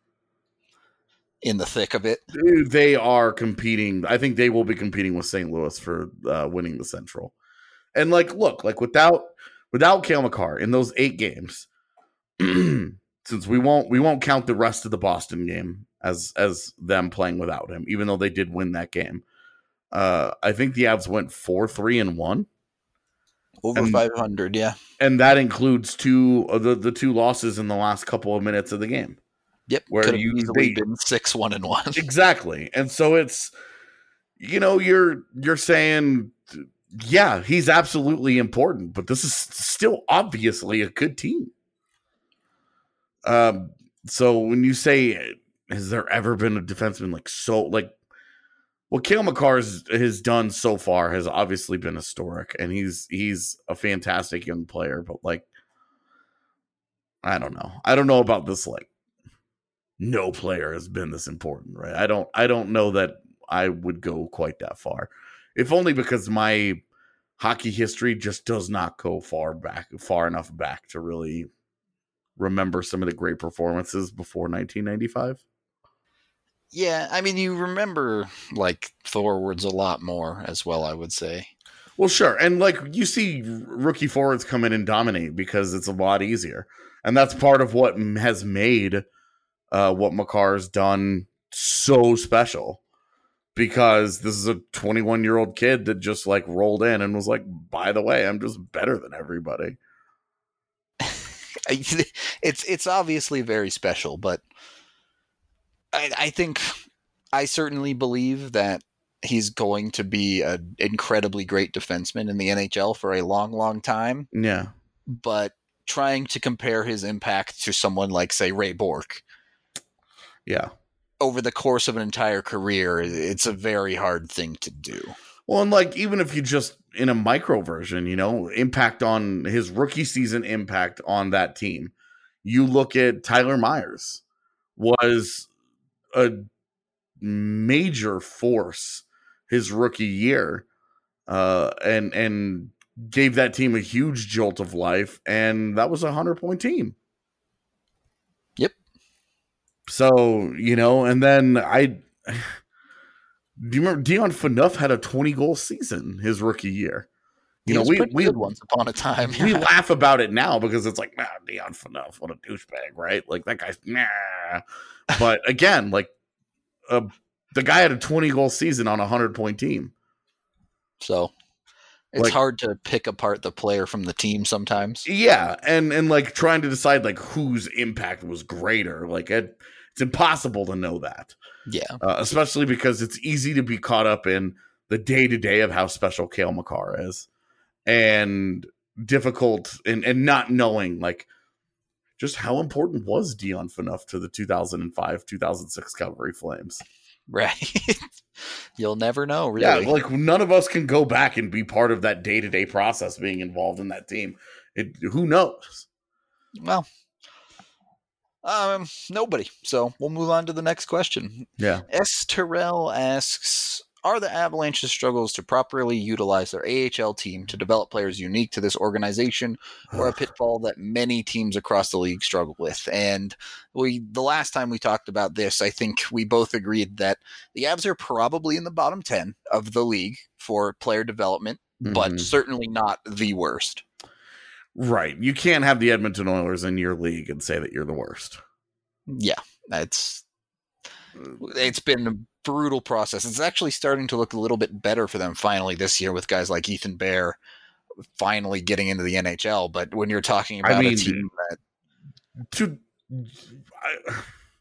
in the thick of it. They are competing. I think they will be competing with Saint Louis for uh, winning the Central. And like, look, like without without Cale Makar in those eight games, since we won't we won't count the rest of the Boston game as as them playing without him, even though they did win that game. Uh, I think the Avs went four three and one. Over and, five hundred, yeah. And that includes two of the, the two losses in the last couple of minutes of the game. Yep, where could have you easily been six one and one. Exactly, and so it's you know you're you're saying yeah he's absolutely important, but this is still obviously a good team. Um, so when you say has there ever been a defenseman like so like what Cale Makar has, has done so far has obviously been historic, and he's he's a fantastic young player, but like I don't know, I don't know about this like. No player has been this important, right? I don't I don't know that I would go quite that far. If only because my hockey history just does not go far back, far enough back to really remember some of the great performances before nineteen ninety-five. Yeah, I mean, you remember like forwards a lot more as well, I would say. Well, sure. And like you see rookie forwards come in and dominate because it's a lot easier. And that's part of what has made uh, what Makar's done so special. Because this is a twenty-one year old kid that just like rolled in and was like, by the way, I'm just better than everybody. it's it's obviously very special, but I, I think I certainly believe that he's going to be an incredibly great defenseman in the N H L for a long, long time. Yeah. But trying to compare his impact to someone like, say, Ray Bourque. Yeah. Over the course of an entire career, it's a very hard thing to do. Well, and like, even if you just in a micro version, you know, impact on his rookie season impact on that team, you look at Tyler Myers was a major force his rookie year, uh, and, and gave that team a huge jolt of life. And that was a hundred point team. Yep. So, you know, and then I, do you remember Dion Phaneuf had a twenty goal season his rookie year? You he know, we, we, good once upon a time. we laugh about it now because it's like, nah, Dion Phaneuf, what a douchebag, right? Like that guy's, nah. But again, like, uh, the guy had a twenty goal season on a hundred point team. So it's like, hard to pick apart the player from the team sometimes. Yeah. And, and like trying to decide like whose impact was greater. Like it, it's impossible to know that. Yeah. Uh, especially because it's easy to be caught up in the day to day of how special Cale Makar is, and difficult and, and not knowing like just how important was Dion Phaneuf to the two thousand five, two thousand six Calgary Flames. Right. You'll never know, really. Yeah, like none of us can go back and be part of that day to day process being involved in that team. It, who knows? Well, um, nobody. So we'll move on to the next question. Yeah. S. Terrell asks, are the Avalanche's struggles to properly utilize their A H L team to develop players unique to this organization, or a pitfall that many teams across the league struggle with? And we, the last time we talked about this, I think we both agreed that the Avs are probably in the bottom ten of the league for player development, mm-hmm. but certainly not the worst. Right. You can't have the Edmonton Oilers in your league and say that you're the worst. Yeah, that's it's been a brutal process. It's actually starting to look a little bit better for them finally this year with guys like Ethan Bear finally getting into the N H L. But when you're talking about I mean, a team that to I,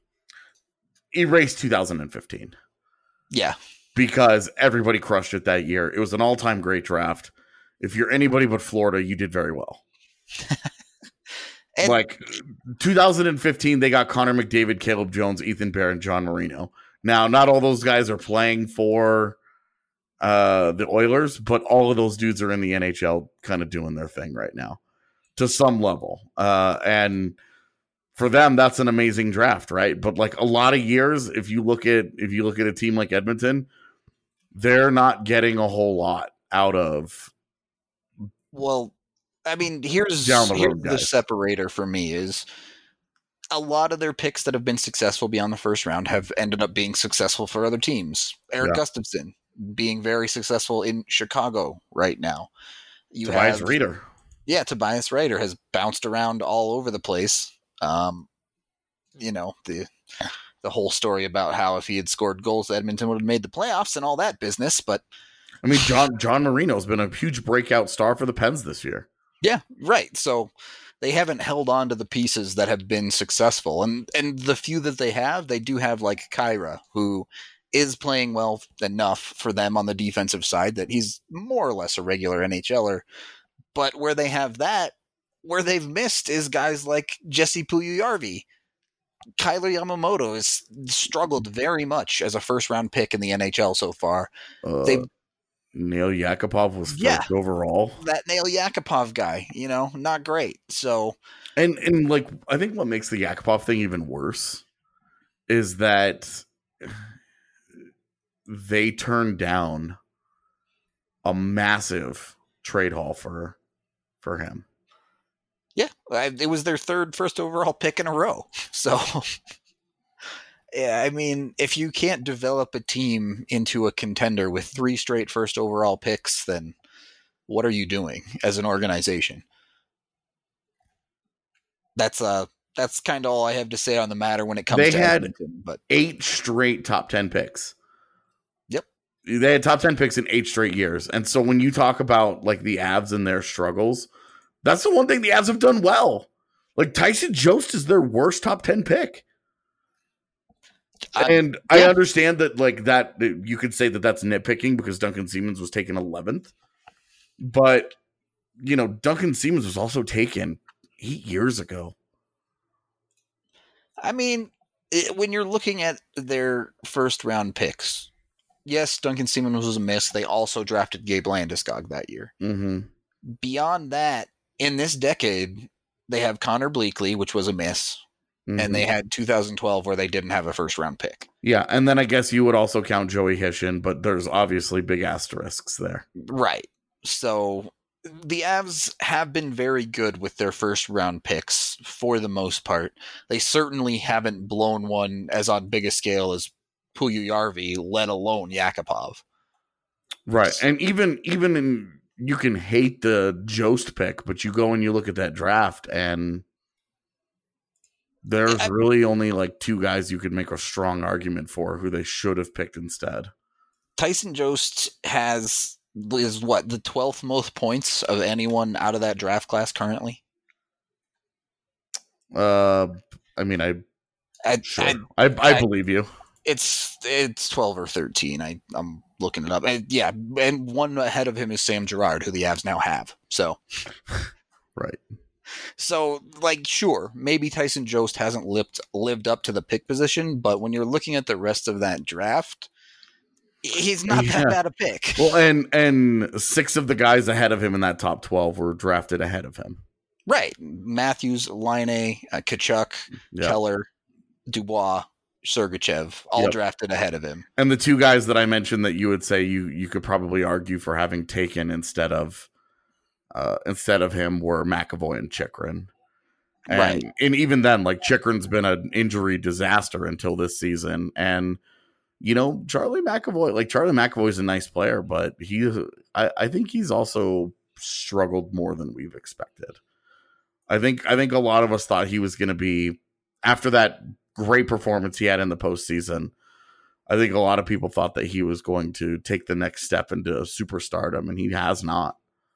erase two thousand fifteen, yeah, because everybody crushed it that year. It was an all-time great draft. If you're anybody but Florida, you did very well. And like two thousand fifteen, they got Connor McDavid, Caleb Jones, Ethan Bear, and John Marino. Now, not all those guys are playing for uh, the Oilers, but all of those dudes are in the N H L kind of doing their thing right now to some level. Uh, and for them, that's an amazing draft, right? But like a lot of years, if you look at if you look at a team like Edmonton, they're not getting a whole lot out of. Well, I mean, here's, the, here's road, the separator for me is a lot of their picks that have been successful beyond the first round have ended up being successful for other teams. Eric yeah. Gustafson being very successful in Chicago right now. You Tobias have, Reeder. Yeah, Tobias Reeder has bounced around all over the place. Um, you know, the the whole story about how if he had scored goals, Edmonton would have made the playoffs and all that business. But I mean, John John Marino's been a huge breakout star for the Pens this year. Yeah, right. So they haven't held on to the pieces that have been successful. And and the few that they have, they do have like Kyra, who is playing well enough for them on the defensive side that he's more or less a regular NHLer. But where they have that, where they've missed is guys like Jesse Puljujarvi. Kyler Yamamoto has struggled very much as a first-round pick in the N H L so far. Uh, They've Nail Yakupov was first yeah, overall. That Nail Yakupov guy, you know, not great. So, and and like I think what makes the Yakupov thing even worse is that they turned down a massive trade haul for for him. Yeah, it was their third first overall pick in a row. So, Yeah, I mean, if you can't develop a team into a contender with three straight first overall picks, then what are you doing as an organization? That's uh that's kind of all I have to say on the matter when it comes They to had Edmonton. But eight straight top ten picks. Yep. They had top ten picks in eight straight years. And so when you talk about like the Avs and their struggles, that's the one thing the Avs have done well. Like Tyson Jost is their worst top ten pick. I, and yeah. I understand that like that you could say that that's nitpicking because Duncan Siemens was taken eleventh. But, you know, Duncan Siemens was also taken eight years ago. I mean, it, when you're looking at their first round picks, yes, Duncan Siemens was a miss. They also drafted Gabe Landeskog that year. Mm-hmm. Beyond that, in this decade, they have Connor Bleakley, which was a miss. Mm-hmm. And they had two thousand twelve where they didn't have a first round pick. Yeah. And then I guess you would also count Joey Hishin, but there's obviously big asterisks there. Right. So the Avs have been very good with their first round picks for the most part. They certainly haven't blown one as on big a scale as Puljujarvi, let alone Yakupov. Right. And even even in you can hate the Jost pick, but you go and you look at that draft and there's I, really only like two guys you could make a strong argument for who they should have picked instead. Tyson Jost has is what the twelfth most points of anyone out of that draft class currently. Uh, I mean, I, I, sure. I, I, I, I, I believe you. It's it's twelve or thirteen. I I'm looking it up. And yeah, and one ahead of him is Sam Girard, who the Avs now have. So, right. So, like, sure, maybe Tyson Jost hasn't lived lived up to the pick position, but when you're looking at the rest of that draft, he's not yeah. that bad a pick. Well, and and six of the guys ahead of him in that top twelve were drafted ahead of him. Right. Matthews, Laine, uh, Tkachuk, yep. Keller, Dubois, Sergachev, all yep. drafted ahead of him. And the two guys that I mentioned that you would say you you could probably argue for having taken instead of uh, instead of him were McAvoy and Chychrun. And, right. And even then, like Chychrun's been an injury disaster until this season. And you know, Charlie McAvoy, like Charlie McAvoy is a nice player, but he, I, I think he's also struggled more than we've expected. I think, I think a lot of us thought he was going to be, after that great performance he had in the postseason, I think a lot of people thought that he was going to take the next step into superstardom, and he has not.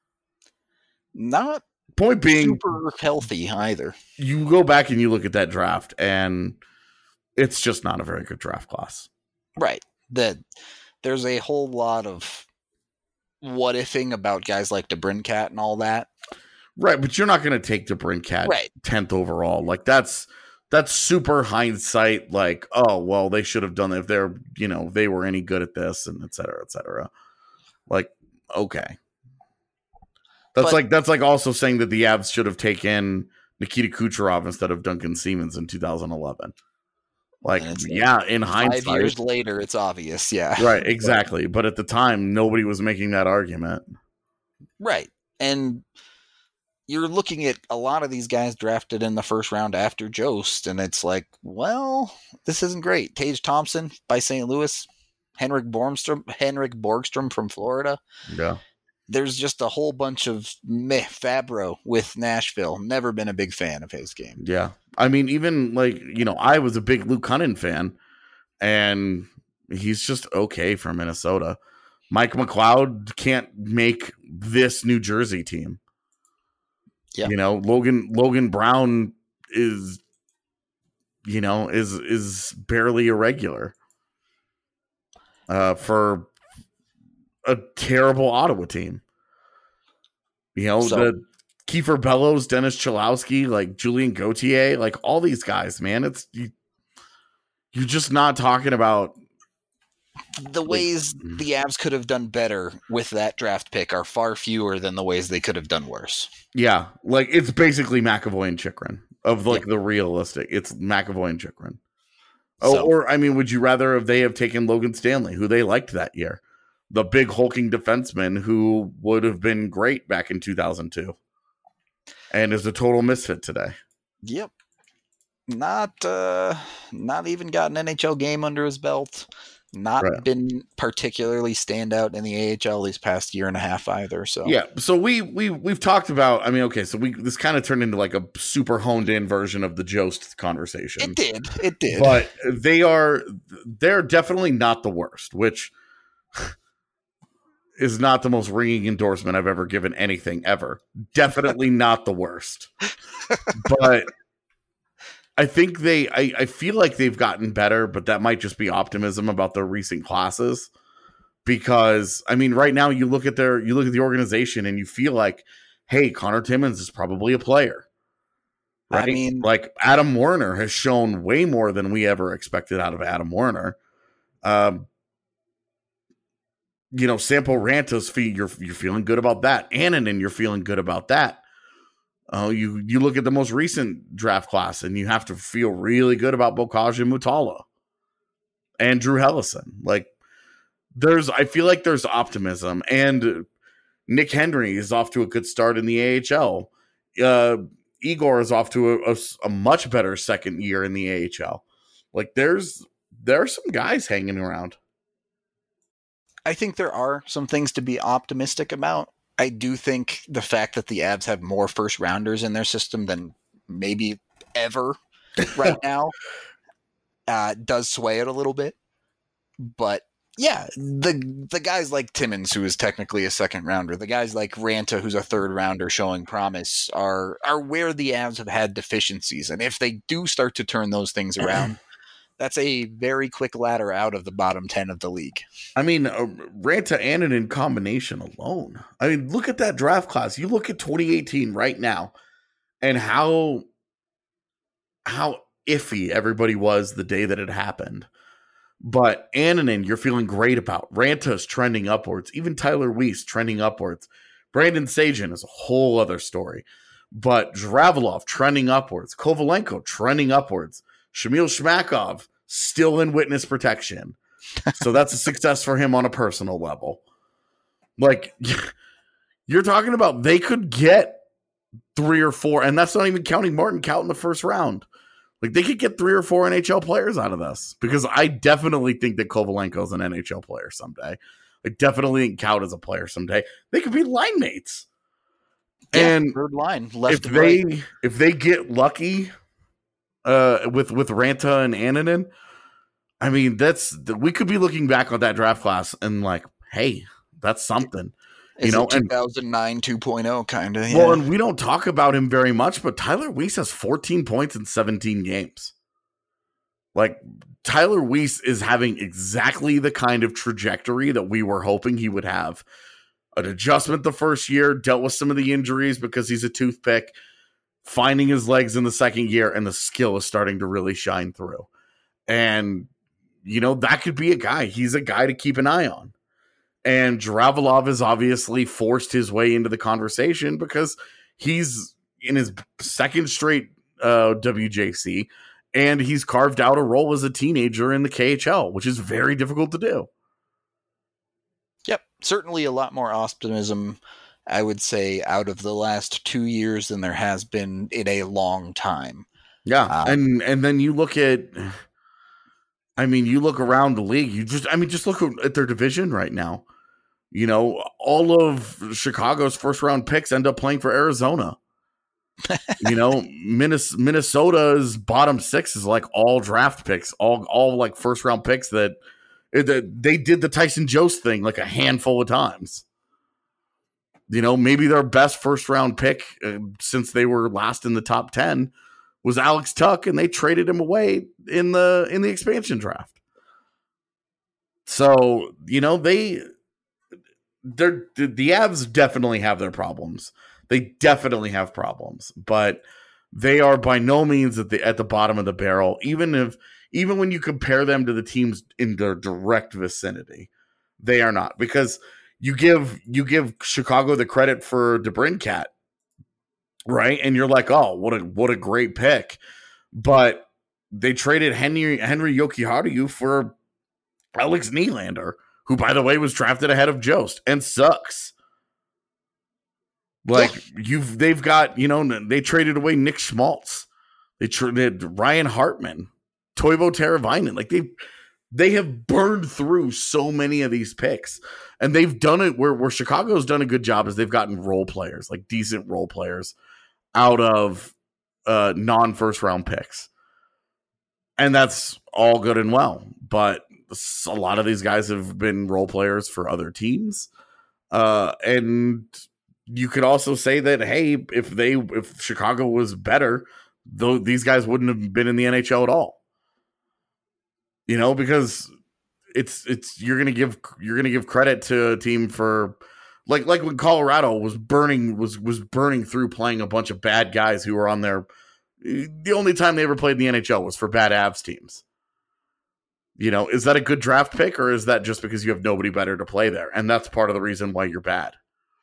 Not point being super healthy either. You go back and you look at that draft, and it's just not a very good draft class. Right. That there's a whole lot of what ifing about guys like DeBrincat and all that. Right, but you're not going to take DeBrincat right. tenth overall. Like that's that's super hindsight. Like, oh well, they should have done it if they're you know they were any good at this, and et cetera, et cetera. Like, okay, that's but, like that's like also saying that the Avs should have taken Nikita Kucherov instead of Duncan Siemens in two thousand eleven. Like, yeah, in hindsight. Five years later, it's obvious, yeah. Right, exactly. But at the time, nobody was making that argument. Right. And you're looking at a lot of these guys drafted in the first round after Jost, and it's like, well, this isn't great. Tage Thompson by Saint Louis, Henrik Borgstrom, Henrik Borgstrom from Florida. Yeah. There's just a whole bunch of meh. Fabro with Nashville. Never been a big fan of his game. Yeah. I mean, even like, you know, I was a big Luke Cunnin fan, and he's just okay for Minnesota. Mike McLeod can't make this New Jersey team. Yeah. You know, Logan Logan Brown is, you know, is is barely irregular uh, for a terrible Ottawa team. You know, so, the Kiefer Bellows, Dennis Cholowski, like Julian Gauthier, like all these guys, man. It's you, you're just not talking about the ways like, the Avs could have done better with that draft pick are far fewer than the ways they could have done worse. Yeah, like it's basically McAvoy and Chychrun of like yep. the realistic. It's McAvoy and Chychrun. Oh, so, or I mean, would you rather have they have taken Logan Stanley, who they liked that year? The big hulking defenseman who would have been great back in two thousand two and is a total misfit today. Yep. not uh, not even got an N H L game under his belt. Not Right. been particularly standout in the A H L these past year and a half either. So Yeah, so we we we've talked about. I mean, okay, so we this kind of turned into like a super honed in version of the Jost conversation. it did, it did. But they are they're definitely not the worst, which is not the most ringing endorsement I've ever given anything ever. Definitely not the worst. But I think they I, I feel like they've gotten better, but that might just be optimism about the recent classes. Because I mean, right now you look at their you look at the organization and you feel like, hey, Connor Timmins is probably a player. Right? I mean, like Adam Werner has shown way more than we ever expected out of Adam Werner. Um, you know, Sampo Ranta's feet, you're you're feeling good about that. Annunen, you're feeling good about that. Oh, uh, you you look at the most recent draft class, and you have to feel really good about Bocage and Mutala and Drew Hellison. Like, there's, I feel like there's optimism, and Nick Henry is off to a good start in the A H L. Uh, Igor is off to a, a, a much better second year in the A H L. Like, there's there are some guys hanging around. I think there are some things to be optimistic about. I do think the fact that the Avs have more first rounders in their system than maybe ever right now uh, does sway it a little bit. But yeah, the the guys like Timmins, who is technically a second rounder, the guys like Ranta, who's a third rounder showing promise, are are where the Avs have had deficiencies. And if they do start to turn those things around, that's a very quick ladder out of the bottom ten of the league. I mean, uh, Ranta Annunen combination alone. I mean, look at that draft class. You look at twenty eighteen right now and how how iffy everybody was the day that it happened. But Annunen, you're feeling great about. Ranta's trending upwards. Even Tyler Weiss trending upwards. Brandon Sagan is a whole other story. But Dravilov trending upwards. Kovalenko trending upwards. Shamil Shmakov still in witness protection. So that's a success for him on a personal level. Like, you're talking about they could get three or four, and that's not even counting Martin Kaut in the first round. Like, they could get three or four N H L players out of this, because I definitely think that Kovalenko is an N H L player someday. I definitely think Kaut is a player someday. They could be line mates. Yeah, and third line, left if and they right. if they get lucky uh, with with Ranta and Annunen, I mean, that's we could be looking back on that draft class and like, hey, that's something. Is you know, two thousand nine two point oh kind of. Yeah. Well, and we don't talk about him very much, but Tyler Weiss has fourteen points in seventeen games. Like, Tyler Weiss is having exactly the kind of trajectory that we were hoping he would have. An adjustment the first year, dealt with some of the injuries because he's a toothpick, finding his legs in the second year, and the skill is starting to really shine through. And, you know, that could be a guy. He's a guy to keep an eye on. And Dravilov has obviously forced his way into the conversation because he's in his second straight uh, W J C, and he's carved out a role as a teenager in the K H L, which is very difficult to do. Yep, certainly a lot more optimism, I would say, out of the last two years than there has been in a long time. Yeah, um, and and then you look at, I mean, you look around the league. You just, I mean, just look at their division right now. You know, all of Chicago's first round picks end up playing for Arizona. You know, Minnesota's bottom six is like all draft picks, all all like first round picks that, that they did the Tyson Jost thing like a handful of times. You know, maybe their best first round pick uh, since they were last in the top ten was Alex Tuck, and they traded him away in the in the expansion draft. So, you know, they they're the Avs definitely have their problems. They definitely have problems, but they are by no means at the at the bottom of the barrel. Even if even when you compare them to the teams in their direct vicinity, they are not, because you give you give Chicago the credit for DeBrincat, right? And you're like, oh, what a what a great pick, but they traded Henry Henry Jokiharju for Alex Nylander, who, by the way, was drafted ahead of Jost and sucks. Like, yeah. you've, they've got, you know, they traded away Nick Schmaltz. They traded Ryan Hartman, Toivo Teravainen. Like they they have burned through so many of these picks, and they've done it where where Chicago's done a good job is they've gotten role players, like decent role players, out of uh, non first round picks, and that's all good and well. But a lot of these guys have been role players for other teams, uh, and you could also say that hey, if they if Chicago was better, though these guys wouldn't have been in the N H L at all. You know, because it's it's you're gonna give you're gonna give credit to a team for like like when Colorado was burning was was burning through playing a bunch of bad guys who were on their the only time they ever played in the N H L was for bad Avs teams. You know, is that a good draft pick or is that just because you have nobody better to play there? And that's part of the reason why you're bad.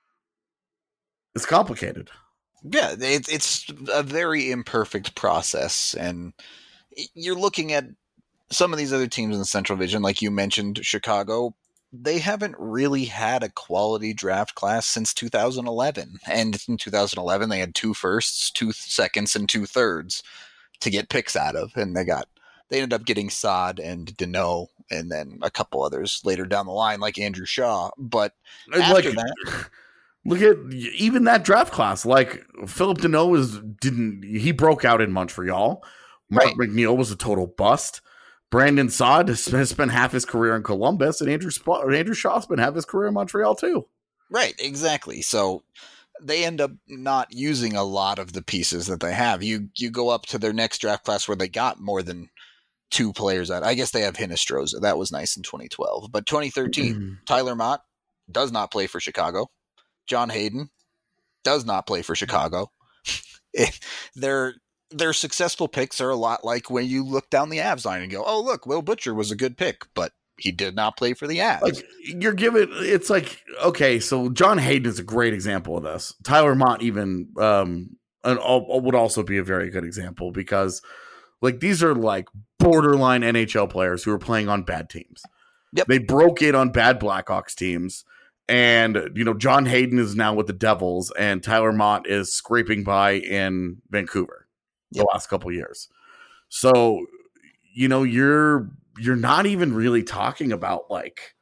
It's complicated. Yeah, it, it's a very imperfect process. And you're looking at some of these other teams in the Central Division, like you mentioned, Chicago, they haven't really had a quality draft class since two thousand eleven. And in two thousand eleven, they had two firsts, two seconds, and two thirds to get picks out of. And they got they ended up getting Saad and Deneau, and then a couple others later down the line, like Andrew Shaw. But after like, that, look at even that draft class. Like Philip Deneau was didn't he broke out in Montreal. Mark right. McNeil was a total bust. Brandon Saad has spent half his career in Columbus, and Andrew Sp- Andrew Shaw's been half his career in Montreal too. Right, exactly. So they end up not using a lot of the pieces that they have. You you go up to their next draft class where they got more than two players out. I guess they have Hinostroza. That was nice in twenty twelve. But twenty thirteen, mm-hmm. Tyler Mott does not play for Chicago. John Hayden does not play for Chicago. They're Their successful picks are a lot like when you look down the Avs line and go, oh, look, Will Butcher was a good pick, but he did not play for the Avs. Like, you're giving, it's like, okay, so John Hayden is a great example of this. Tyler Mott even um, an, would also be a very good example because, like, these are like borderline N H L players who are playing on bad teams. Yep. They broke in on bad Blackhawks teams. And, you know, John Hayden is now with the Devils, and Tyler Mott is scraping by in Vancouver. The last couple of years. So, you know, you're you're not even really talking about like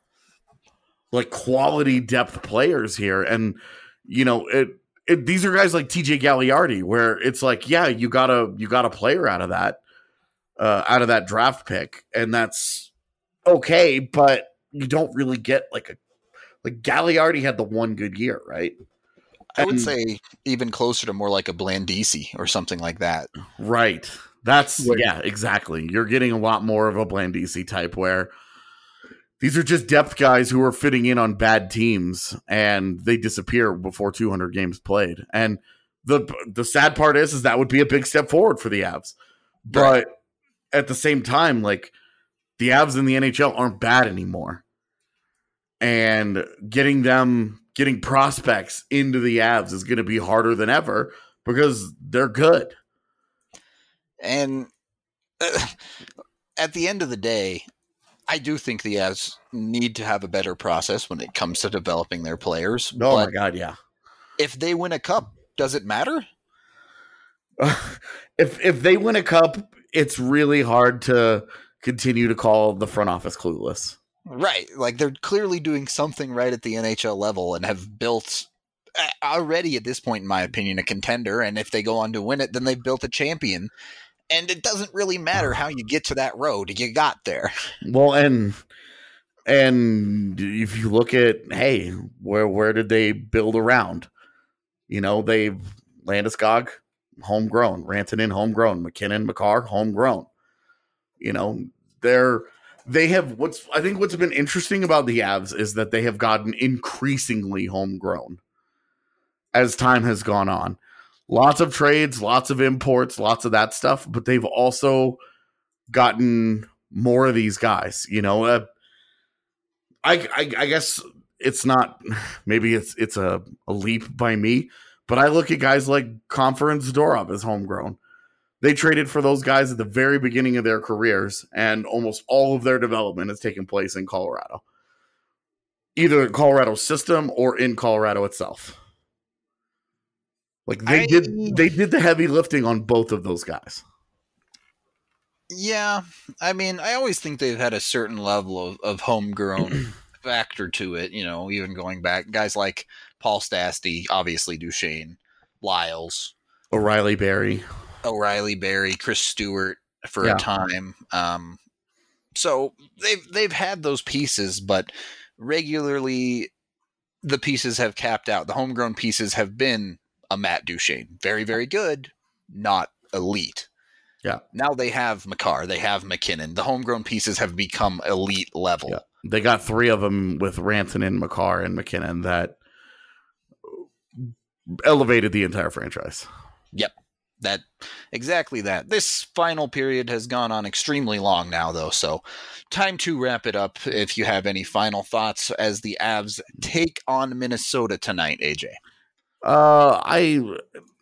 like quality depth players here. And, you know, it, it these are guys like T J Gagliardi, where it's like, yeah, you got a you got a player out of that, uh, out of that draft pick, and that's okay, but you don't really get like a like Gagliardi had the one good year, right? I would say even closer to more like a Blandisi or something like that. Right. That's, Wait. yeah, exactly. You're getting a lot more of a Blandisi type where these are just depth guys who are fitting in on bad teams and they disappear before two hundred games played. And the the sad part is, is that would be a big step forward for the Avs. But right. at the same time, like the Avs in the N H L aren't bad anymore. And getting them... Getting prospects into the Avs is going to be harder than ever because they're good. And uh, at the end of the day, I do think the Avs need to have a better process when it comes to developing their players. Oh, but my God, yeah. If they win a cup, does it matter? Uh, if if they win a cup, it's really hard to continue to call the front office clueless. Right. Like they're clearly doing something right at the N H L level and have built already at this point, in my opinion, a contender. And if they go on to win it, then they've built a champion. And it doesn't really matter how you get to that road. You got there. Well, and and if you look at, hey, where where did they build around? You know, they Landeskog, homegrown. Rantanen, homegrown. McKinnon, McCarr, homegrown. You know, they're They have what's I think what's been interesting about the Avs is that they have gotten increasingly homegrown as time has gone on. Lots of trades, lots of imports, lots of that stuff, but they've also gotten more of these guys. You know, uh, I, I I guess it's not maybe it's it's a, a leap by me, but I look at guys like Compher and Zadorov as homegrown. They traded for those guys at the very beginning of their careers, and almost all of their development has taken place in Colorado. Either in Colorado's system or in Colorado itself. Like they I, did they did the heavy lifting on both of those guys. Yeah, I mean, I always think they've had a certain level of, of homegrown factor to it, you know, even going back. Guys like Paul Stastny, obviously Duchesne, Lyles, O'Reilly Berry. O'Reilly Berry, Chris Stewart for Yeah. a time. Um, so they've they've had those pieces, but regularly the pieces have capped out. The homegrown pieces have been a Matt Duchesne. Very, very good, not elite. Yeah. Now they have Makar, they have McKinnon. The homegrown pieces have become elite level. Yeah. They got three of them with Rantanen, Makar, and McKinnon that elevated the entire franchise. Yep. That exactly that. This final period has gone on extremely long now, though, so time to wrap it up. If you have any final thoughts as the Avs take on Minnesota tonight, A J. Uh, I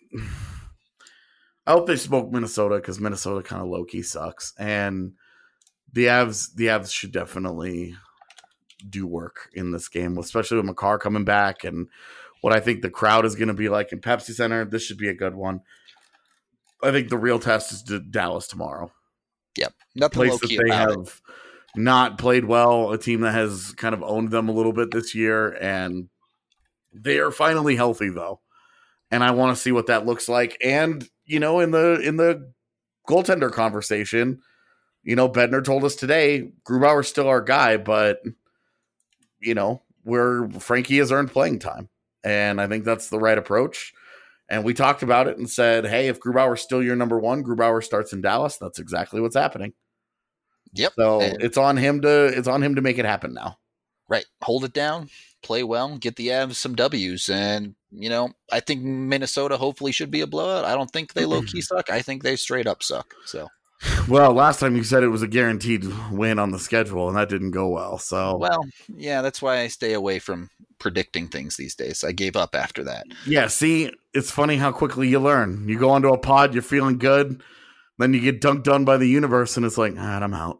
I hope they smoke Minnesota because Minnesota kind of low key sucks, and the Avs the Avs should definitely do work in this game, especially with Makar coming back and what I think the crowd is going to be like in Pepsi Center. This should be a good one. I think the real test is to Dallas tomorrow. Yep. Nothing Place low that key they about have it. not played well, a team that has kind of owned them a little bit this year, and they are finally healthy though. And I want to see what that looks like. And, you know, in the in the goaltender conversation, you know, Bednar told us today, Grubauer's still our guy, but you know, where Frankie has earned playing time. And I think that's the right approach. And we talked about it and said, hey, if Grubauer's still your number one, Grubauer starts in Dallas. That's exactly what's happening. Yep. So And- it's on him to it's on him to make it happen now. Right. Hold it down, play well, get the Avs some W's. And, you know, I think Minnesota hopefully should be a blowout. I don't think they low-key suck. I think they straight up suck. So, Well, last time you said it was a guaranteed win on the schedule, and that didn't go well. So, well, yeah, that's why I stay away from predicting things these days. I gave up after that. yeah, see, it's funny how quickly you learn. You go onto a pod, you're feeling good, then you get dunked on by the universe, and it's like, ah, I'm out.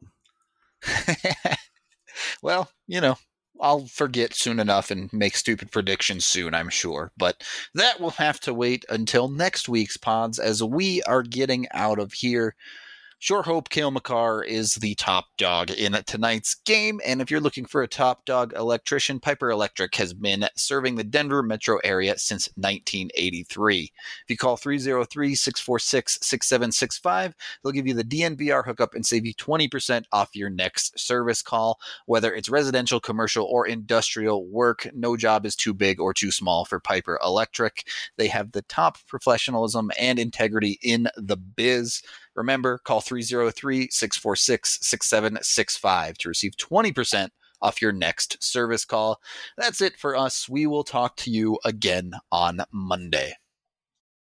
Well, you know, I'll forget soon enough and make stupid predictions soon, I'm sure. But that will have to wait until next week's pods as we are getting out of here. Sure hope Cale Makar is the top dog in tonight's game. And if you're looking for a top dog electrician, Piper Electric has been serving the Denver metro area since nineteen eighty-three. If you call three oh three, six four six, six seven six five, they'll give you the D N V R hookup and save you twenty percent off your next service call. Whether it's residential, commercial, or industrial work, no job is too big or too small for Piper Electric. They have the top professionalism and integrity in the biz. Remember, call three oh three, six four six, six seven six five to receive twenty percent off your next service call. That's it for us. We will talk to you again on Monday.